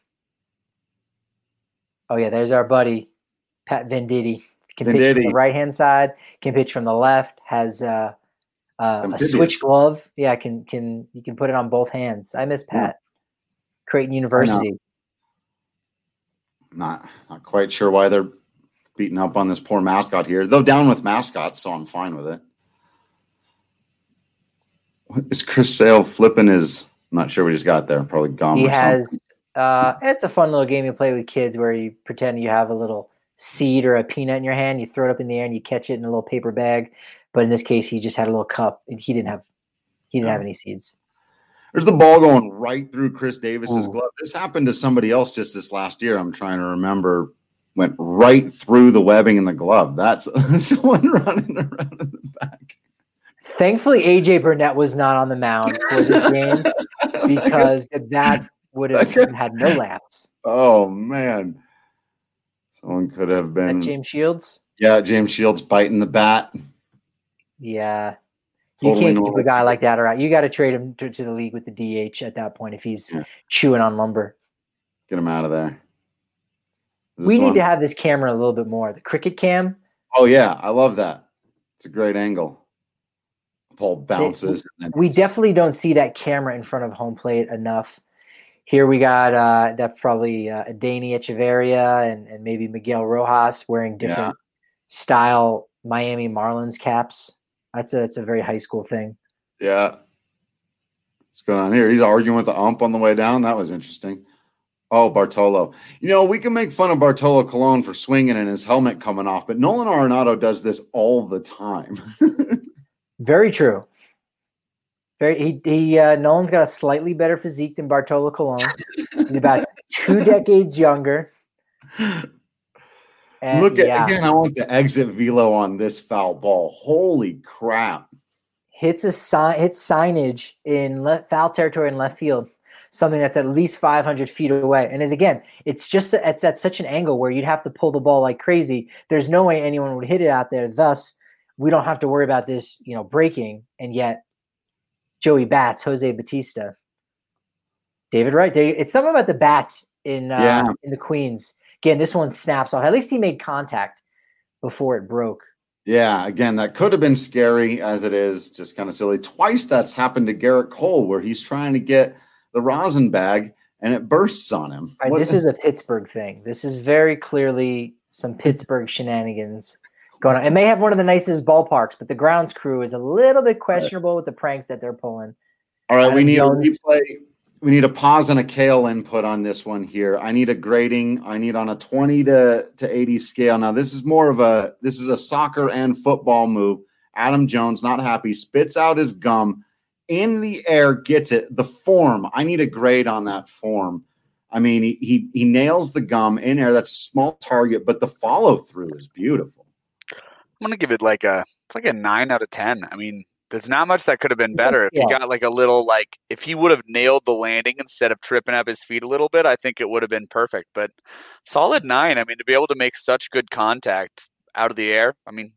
Oh, yeah, there's our buddy, Pat Venditti. Can Venditti. pitch from the right-hand side, can pitch from the left, has uh, uh, a switch glove. Yeah, can can you can put it on both hands. I miss Pat. Yeah. Creighton University. Not, not quite sure why they're beating up on this poor mascot here. Though down with mascots, so I'm fine with it. What is Chris Sale flipping his – I'm not sure what he's got there. Probably gum he or has, something. Uh, it's a fun little game you play with kids where you pretend you have a little seed or a peanut in your hand. You throw it up in the air and you catch it in a little paper bag. But in this case, he just had a little cup and he didn't have he didn't yeah. have any seeds. There's the ball going right through Chris Davis's Ooh. glove. This happened to somebody else just this last year. I'm trying to remember. Went right through the webbing in the glove. That's someone running around in the back. Thankfully, A J Burnett was not on the mound for this game because that would have had no laps. Oh, man. Someone could have been. That James Shields? Yeah, James Shields biting the bat. Yeah. You totally can't normal. keep a guy like that around. You got to trade him to, to the league with the D H at that point if he's yeah. chewing on lumber. Get him out of there. We need one? to have this camera a little bit more. The cricket cam. Oh, yeah. I love that. It's a great angle. Ball bounces. It, we definitely don't see that camera in front of home plate enough. Here we got uh, that's probably uh, Adeiny Echeverria and, and maybe Miguel Rojas wearing different yeah. style Miami Marlins caps. That's a, that's a very high school thing. Yeah. What's going on here? He's arguing with the ump on the way down. That was interesting. Oh, Bartolo. You know, we can make fun of Bartolo Colon for swinging and his helmet coming off, but Nolan Arenado does this all the time. Very true. Very. He, he uh, Nolan's got a slightly better physique than Bartolo Colon. He's about two decades younger. And, Look at yeah. again. I want the exit velo on this foul ball. Holy crap! Hits a sign. Hits signage in left, foul territory in left field. something that's at least five hundred feet away. And as again, it's just it's at such an angle where you'd have to pull the ball like crazy. There's no way anyone would hit it out there. Thus, we don't have to worry about this, you know, breaking. And yet, Joey Bats, Jose Batista, David Wright. They, it's something about the bats in uh, yeah. in the Queens. Again, this one snaps off. At least he made contact before it broke. Yeah, again, that could have been scary as it is, just kind of silly. Twice that's happened to Garrett Cole where he's trying to get the rosin bag and it bursts on him. Right, this is a Pittsburgh thing. This is very clearly some Pittsburgh shenanigans going on. It may have one of the nicest ballparks, but the grounds crew is a little bit questionable with the pranks that they're pulling. All right, Adam we need Jones. a replay. We need a pause and a Kale input on this one here. I need a grading. I need on a twenty to eighty scale. Now, this is more of a this is a soccer and football move. Adam Jones, not happy, spits out his gum in the air, gets it. The form, I need a grade on that form. I mean, he he, he nails the gum in air. That's a small target, but the follow through is beautiful. I'm gonna give it like a it's like a nine out of ten. I mean, there's not much that could have been better. If he got like a little like if he would have nailed the landing instead of tripping up his feet a little bit, I think it would have been perfect. But solid nine. I mean, to be able to make such good contact out of the air, I mean,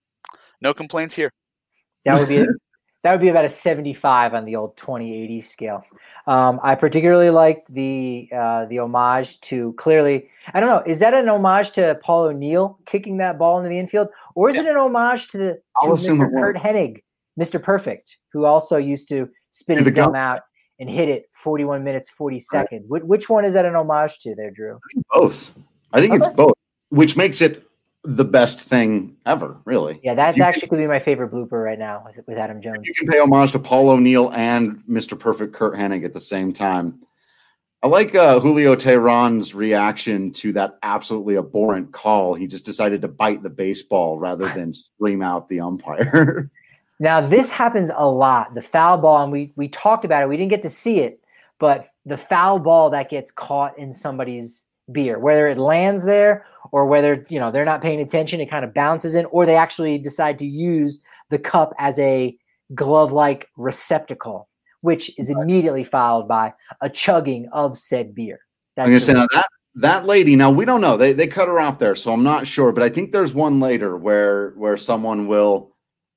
no complaints here. That would be that would be about a seventy-five on the old twenty eighty scale. Um, I particularly liked the uh, the homage to clearly. I don't know. Is that an homage to Paul O'Neill kicking that ball into the infield, or is yeah. it an homage to the to Mister Kurt Hennig, Mister Perfect, who also used to spit his gum out and hit it forty-one minutes, forty seconds. Right. Which one is that an homage to there, Drew? I think both. I think okay. it's both, which makes it the best thing ever, really. Yeah, that actually could be my favorite blooper right now with, with Adam Jones. You can pay homage to Paul O'Neill and Mister Perfect Kurt Hennig at the same time. I like uh, Julio Teheran's reaction to that absolutely abhorrent call. He just decided to bite the baseball rather than scream out the umpire. Now, this happens a lot. The foul ball, and we we talked about it. We didn't get to see it, but the foul ball that gets caught in somebody's beer, whether it lands there or whether, you know, they're not paying attention, it kind of bounces in, or they actually decide to use the cup as a glove-like receptacle, which is immediately followed by a chugging of said beer. That's I'm gonna say now that that lady. Now we don't know. They they cut her off there, so I'm not sure. But I think there's one later where where someone will.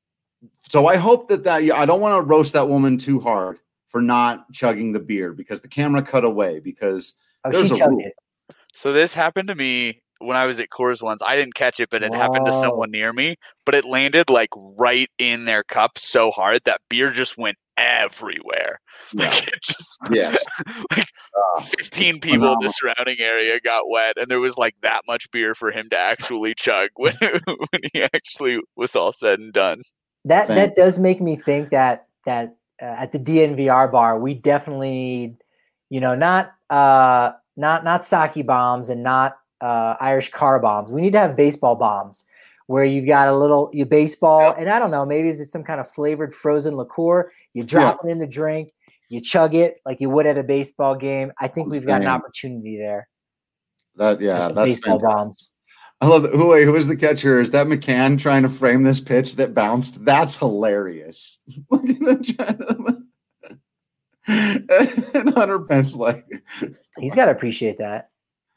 So I hope that that I don't want to roast that woman too hard for not chugging the beer because the camera cut away because oh, there's she a chugged rule. it. So this happened to me when I was at Coors once. I didn't catch it, but it Whoa. happened to someone near me. But it landed like right in their cup so hard that beer just went everywhere. Yeah. Like it just yes. like uh, fifteen people phenomenal. In the surrounding area got wet, and there was like that much beer for him to actually chug when when he actually was all said and done. That Thanks. That does make me think that that uh, at the D N V R bar we definitely need, you know, not uh, not not sake bombs and not uh, Irish car bombs. We need to have baseball bombs where you've got a little you baseball, and I don't know, maybe it's some kind of flavored frozen liqueur. You drop yeah. it in the drink, you chug it like you would at a baseball game. I think I'm we've saying. got an opportunity there. That yeah, that's baseball fantastic. bombs. I love it. Who, wait, who is the catcher? Is that McCann trying to frame this pitch that bounced? That's hilarious. Look at the gentleman. And Hunter Pence like he's got to appreciate that.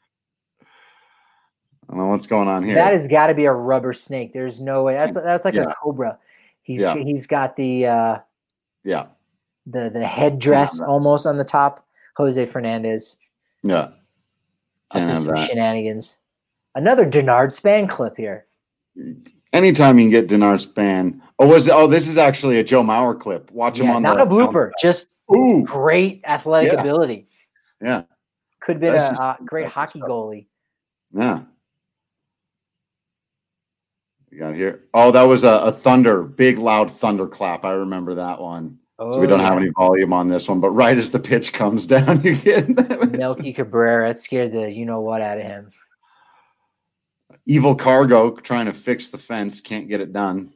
I don't know what's going on here. That has got to be a rubber snake. There's no way. That's that's like yeah. a cobra. He's yeah. he's got the uh, yeah the the headdress yeah. almost on the top. Jose Fernandez. Yeah. Can't have that. Shenanigans. Another Denard Span clip here. Anytime you can get Denard Span. Oh, was it, oh, this is actually a Joe Mauer clip. Watch yeah, him on not the a blooper, just Ooh. great athletic yeah. ability. Yeah. Could have been That's a just, uh, great hockey stuff. goalie. Yeah. You got here. Oh, that was a, a thunder, big loud thunder clap. I remember that one. Oh, so we don't yeah. have any volume on this one, but right as the pitch comes down, you get Melky Cabrera. It scared the you know what out of him. Evil Cargo trying to fix the fence, can't get it done.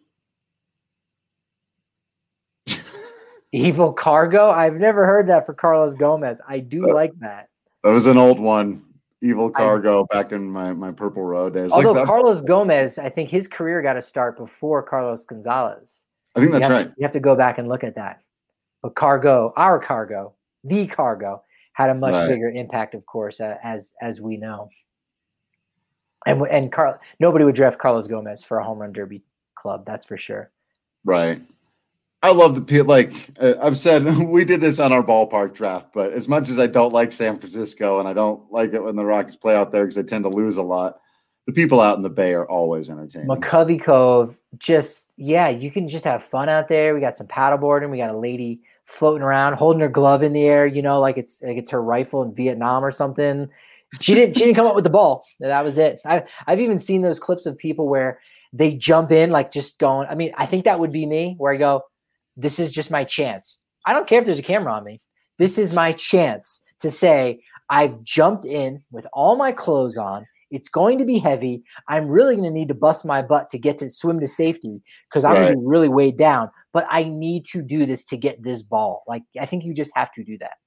Evil Cargo? I've never heard that for Carlos Gomez. I do uh, like that. That was an old one. Evil Cargo I, back in my, my Purple Road days. Although like Carlos Gomez, I think his career got to start before Carlos Gonzalez. I think that's you right. To, you have to go back and look at that. But Cargo, our Cargo, the Cargo, had a much Right. bigger impact, of course, uh, as as we know. And and Carl, nobody would draft Carlos Gomez for a home run derby club. That's for sure. Right. I love the people. Like uh, I've said, we did this on our ballpark draft. But as much as I don't like San Francisco, and I don't like it when the Rockies play out there because they tend to lose a lot, the people out in the Bay are always entertaining. McCovey Cove, just yeah, you can just have fun out there. We got some paddleboarding. We got a lady floating around, holding her glove in the air, you know, like it's like it's her rifle in Vietnam or something. She didn't she didn't come up with the ball. That was it. I I've even seen those clips of people where they jump in, like just going. I mean, I think that would be me, where I go, this is just my chance. I don't care if there's a camera on me. This is my chance to say I've jumped in with all my clothes on. It's going to be heavy. I'm really going to need to bust my butt to get to swim to safety because I'm Right. going to be really weighed down. But I need to do this to get this ball. Like, I think you just have to do that.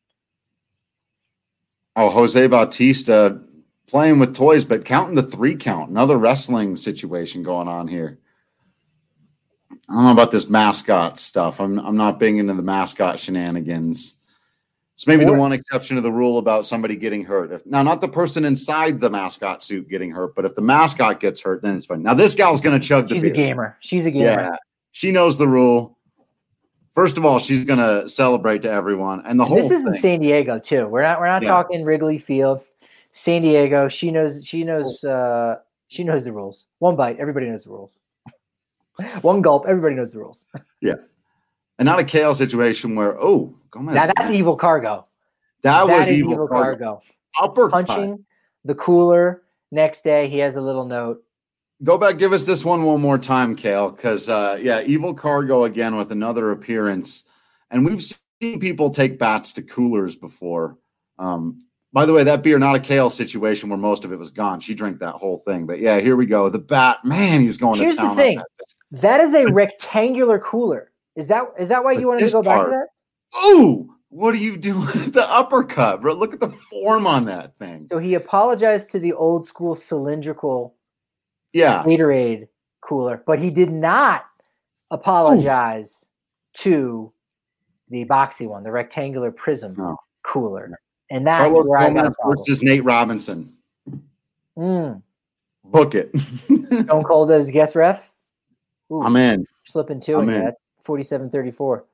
Oh, Jose Bautista playing with toys, but counting the three count. Another wrestling situation going on here. I don't know about this mascot stuff. I'm I'm not big into the mascot shenanigans. It's maybe the one exception to the rule about somebody getting hurt. If, now, not the person inside the mascot suit getting hurt, but if the mascot gets hurt, then it's fine. Now, this gal's going to chug the She's beer. a gamer. She's a gamer. Yeah, she knows the rule. First of all, she's going to celebrate to everyone, and the And whole this is in thing. San Diego too. We're not we're not Yeah. talking Wrigley Field. San Diego. She knows she knows uh, she knows the rules. One bite, everybody knows the rules. One gulp, everybody knows the rules. Yeah, and not a Kale situation where oh, Gomez. Now that's evil cargo. That, That was is evil, evil cargo. cargo. Uppercut. Punching the cooler. Next day, he has a little note. Go back, give us this one one more time, Kale, because uh, yeah, evil cargo again with another appearance, and we've seen people take bats to coolers before. Um, by the way, that beer not a Kale situation where most of it was gone. She drank that whole thing, but yeah, here we go. The bat, man, he's going Here's to town. the thing. On that. That is a rectangular cooler. Is that is that why But you wanted to this go back part- to that? Oh, what are you doing? The uppercut, bro. Look at the form on that thing. So he apologized to the old school cylindrical Yeah, Gatorade cooler, but he did not apologize to the boxy one, the rectangular prism No. cooler. And that's Carlos where I got a Gomez problem. versus Nate Robinson. Mm. Book it. Stone Cold as guest ref. Ooh, I'm in. slipping two I'm in in. that. forty-seven thirty-four.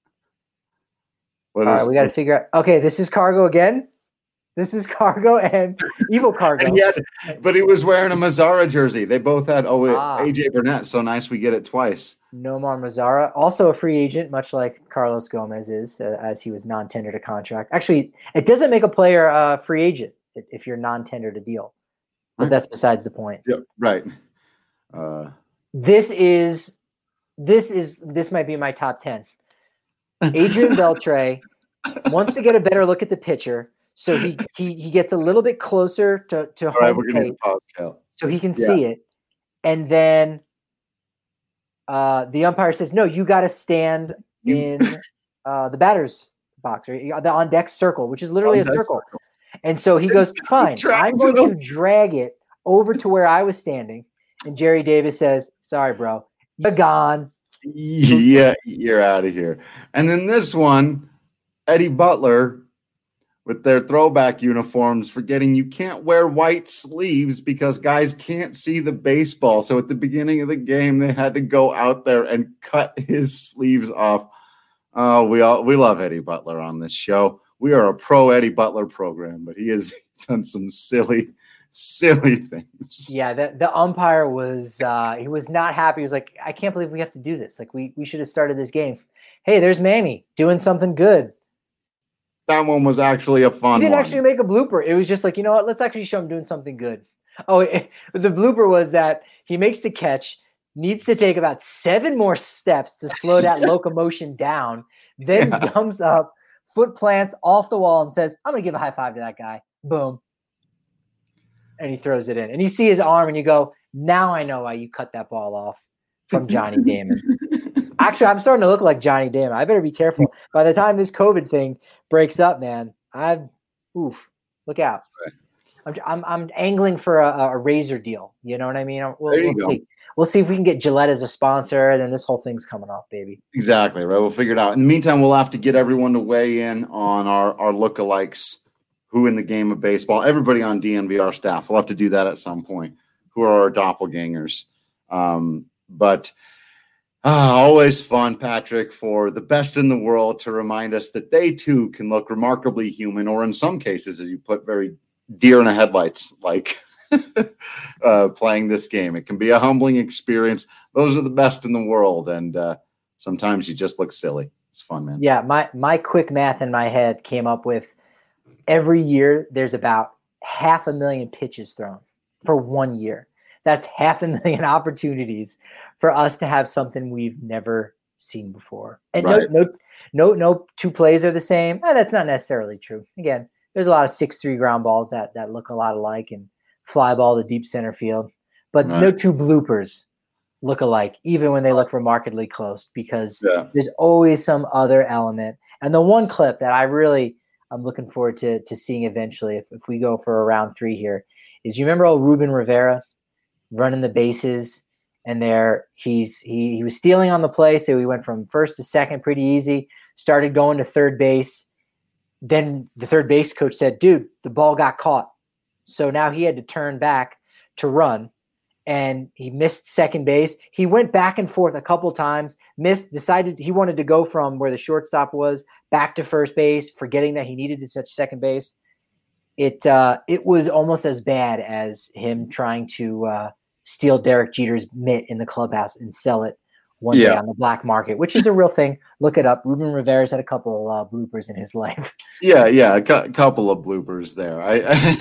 What All is- right, we got to figure out. Okay, this is Cargo again. This is Cargo and Evil Cargo. And yet, but he was wearing a Mazzara jersey. They both had oh wait, Ah. A J Burnett. So nice we get it twice. Nomar Mazzara, also a free agent, much like Carlos Gomez is, uh, as he was non-tendered a contract. Actually, it doesn't make a player a uh, free agent if- if you're non-tendered a deal. But Huh. that's besides the point. Yep, right. Uh, This is this is this might be my top ten. Adrian Beltre wants to get a better look at the pitcher, so he he, he gets a little bit closer to to all right, home we're gonna plate hit pause, Cal. so he can Yeah. see it, and then uh, the umpire says, "No, you got to stand You- in uh, the batter's box or the on deck circle, which is literally a On deck circle." And so he goes, "Fine, I'm drags going it to drag it over to where I was standing." And Jerry Davis says, "Sorry, bro, you're gone." Yeah, you're out of here. And then this one, Eddie Butler with their throwback uniforms, forgetting you can't wear white sleeves because guys can't see the baseball. So at the beginning of the game, they had to go out there and cut his sleeves off. Oh, we all we love Eddie Butler on this show. We are a pro Eddie Butler program, but he has done some silly, silly things. Yeah, the, the umpire was uh, he was not happy. He was like, "I can't believe we have to do this. Like, we we should have started this game." Hey, there's Manny doing something good. That one was actually a fun He didn't one. actually make a blooper. It was just like, you know what? Let's actually show him doing something good. Oh, it, the blooper was that he makes the catch, needs to take about seven more steps to slow that locomotion down, then Yeah. comes up, foot plants off the wall, and says, "I'm gonna give a high five to that guy." Boom. And he throws it in. And you see his arm and you go, "Now I know why you cut that ball off from Johnny Damon." Actually, I'm starting to look like Johnny Damon. I better be careful. By the time this COVID thing breaks up, man, I've oof, look out. I'm, I'm I'm angling for a, a razor deal. You know what I mean? We'll, There you we'll go. see. We'll see if we can get Gillette as a sponsor, and then this whole thing's coming off, baby. Exactly, right? We'll figure it out. In the meantime, we'll have to get everyone to weigh in on our, our lookalikes who in the game of baseball, everybody on D N V R staff, we'll have to do that at some point, who are our doppelgangers. Um, but uh, always fun, Patrick, for the best in the world to remind us that they too can look remarkably human, or in some cases, as you put, very deer in the headlights, like uh, playing this game. It can be a humbling experience. Those are the best in the world. And uh, sometimes you just look silly. It's fun, man. Yeah. My, my quick math in my head came up with every year there's about half a million pitches thrown for one year. That's half a million opportunities for us to have something we've never seen before. And right. no, no, no, no two plays are the same. Eh, that's not necessarily true. Again, there's a lot of six three ground balls that, that look a lot alike and fly ball to deep center field, but right. no two bloopers look alike, even when they look remarkably close, because yeah. there's always some other element. And the one clip that I really, I'm looking forward to, to seeing eventually, if, if we go for a round three here, is you remember old Ruben Rivera running the bases, and there he's he he was stealing on the play, so he went from first to second pretty easy, started going to third base. Then the third base coach said, dude, the ball got caught. So now he had to turn back to run, and he missed second base. He went back and forth a couple times, missed, decided he wanted to go from where the shortstop was back to first base, forgetting that he needed to touch second base. It uh, it was almost as bad as him trying to uh, steal Derek Jeter's mitt in the clubhouse and sell it one yeah. day on the black market, which is a real thing. Look it up. Ruben Rivera's had a couple of uh, bloopers in his life. Yeah, yeah, a cu- couple of bloopers there. I,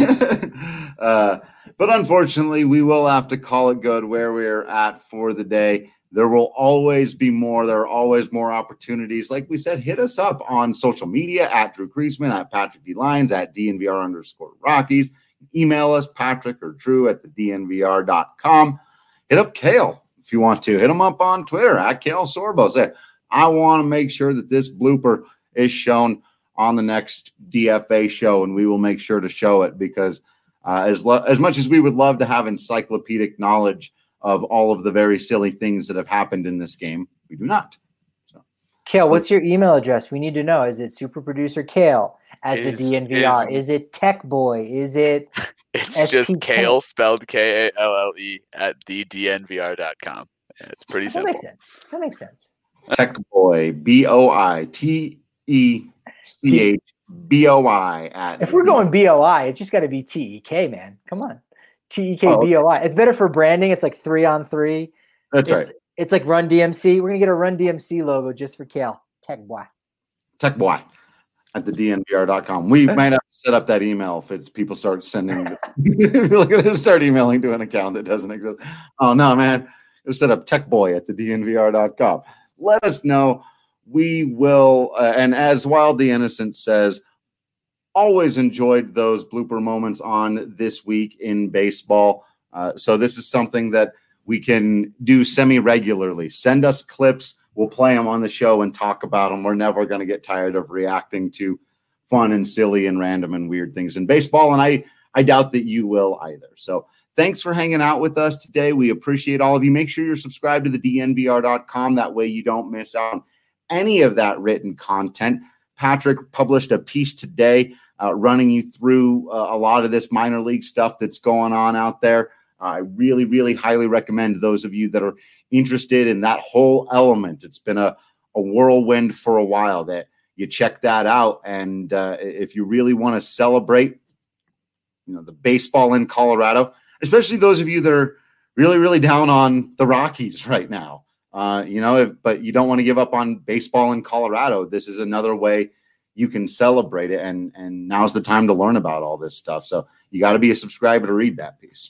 I uh, but unfortunately, we will have to call it good where we're at for the day. There will always be more. There are always more opportunities. Like we said, hit us up on social media at Drew Kriesman, at Patrick D. Lyons, at D N V R underscore Rockies. Email us, Patrick or Drew at the D N V R dot com. Hit up Kale if you want to. Hit him up on Twitter at Kale Sorbo. Say, I want to make sure that this blooper is shown on the next D F A show, and we will make sure to show it because uh, as, lo- as much as we would love to have encyclopedic knowledge of all of the very silly things that have happened in this game, we do not. So, Kale, what's your email address? We need to know. Is it super producer Kale at is, the D N V R? Is, is it Tech Boy? Is it It's S P K? Just Kale, spelled K A L L E, at the D N V R dot com. It's pretty that simple. That makes sense. That makes sense. Tech Boy, B O I T E C H B O I. At if we're going B O I, it's just got to be T E K, man. Come on. T E K B O I. It's better for branding. It's like three on three. That's it's, right. It's like Run D M C. We're going to get a Run D M C logo just for Kale. Tech Boy. Tech Boy at the D N V R dot com. We might have to set up that email if it's people start sending. We're going to start emailing to an account that doesn't exist. Oh, no, man. We'll set up Tech Boy at the D N V R dot com. Let us know. We will. Uh, and as Wild the Innocent says, always enjoyed those blooper moments on This Week in Baseball. Uh, so this is something that we can do semi-regularly. Send us clips. We'll play them on the show and talk about them. We're never going to get tired of reacting to fun and silly and random and weird things in baseball. And I, I doubt that you will either. So thanks for hanging out with us today. We appreciate all of you. Make sure you're subscribed to the D N V R dot com. That way you don't miss out on any of that written content. Patrick published a piece today Uh, running you through uh, a lot of this minor league stuff that's going on out there. Uh, I really, really highly recommend those of you that are interested in that whole element. It's been a, a whirlwind for a while that you check that out. And uh, if you really want to celebrate, you know, the baseball in Colorado, especially those of you that are really, really down on the Rockies right now, uh, you know, if, but you don't want to give up on baseball in Colorado, this is another way you can celebrate it, and and now's the time to learn about all this stuff. So you got to be a subscriber to read that piece.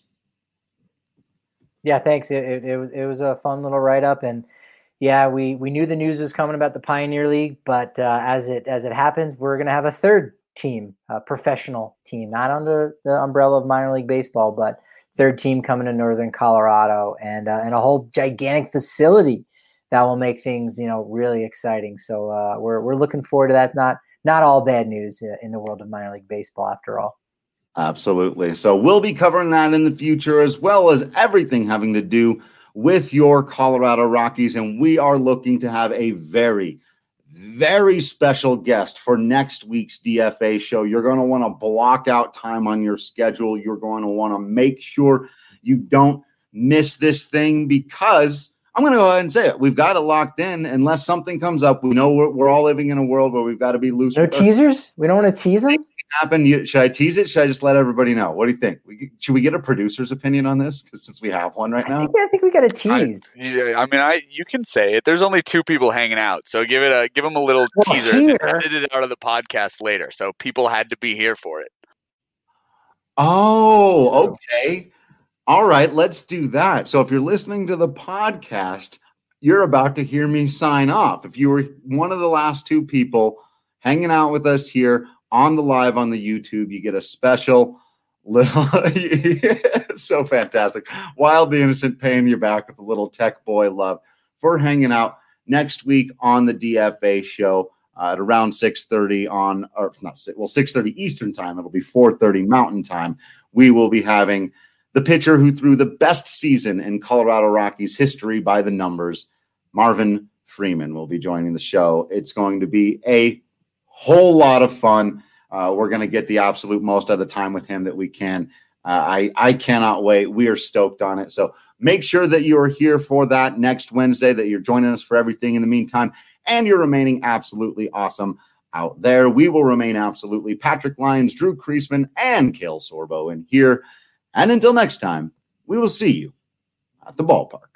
Yeah, thanks. It, it, it was it was a fun little write up, and yeah, we we knew the news was coming about the Pioneer League, but uh, as it as it happens, we're going to have a third team, a professional team, not under the umbrella of minor league baseball, but third team coming to Northern Colorado, and uh, and a whole gigantic facility that will make things, you know, really exciting. So uh, we're we're looking forward to that. Not Not all bad news in the world of minor league baseball, after all. Absolutely. So we'll be covering that in the future, as well as everything having to do with your Colorado Rockies. And we are looking to have a very, very special guest for next week's D F A show. You're going to want to block out time on your schedule. You're going to want to make sure you don't miss this thing, because I'm going to go ahead and say it. We've got it locked in unless something comes up. We know we're, we're all living in a world where we've got to be loose. No teasers? We don't want to tease them? Happen. You, should I tease it? Should I just let everybody know? What do you think? We, should we get a producer's opinion on this? Because since we have one right now, I think, I think we got a tease. I, yeah, I mean, I you can say it. There's only two people hanging out, so give it a give them a little well, teaser. Here, and edit it out of the podcast later, so people had to be here for it. Oh, okay. All right, let's do that. So if you're listening to the podcast, you're about to hear me sign off. If you were one of the last two people hanging out with us here on the live on the YouTube, you get a special little, so fantastic. Wild the Innocent paying you back with a little tech boy love for hanging out next week on the D F A show uh, at around six thirty on, or not six, well, six thirty Eastern time. It'll be four thirty Mountain time. We will be having the pitcher who threw the best season in Colorado Rockies history by the numbers, Marvin Freeman, will be joining the show. It's going to be a whole lot of fun. Uh, we're going to get the absolute most of the time with him that we can. Uh, I, I cannot wait. We are stoked on it. So make sure that you are here for that next Wednesday, that you're joining us for everything in the meantime, and you're remaining absolutely awesome out there. We will remain absolutely Patrick Lyons, Drew Creasman, and Cale Sorbo in here. And until next time, we will see you at the ballpark.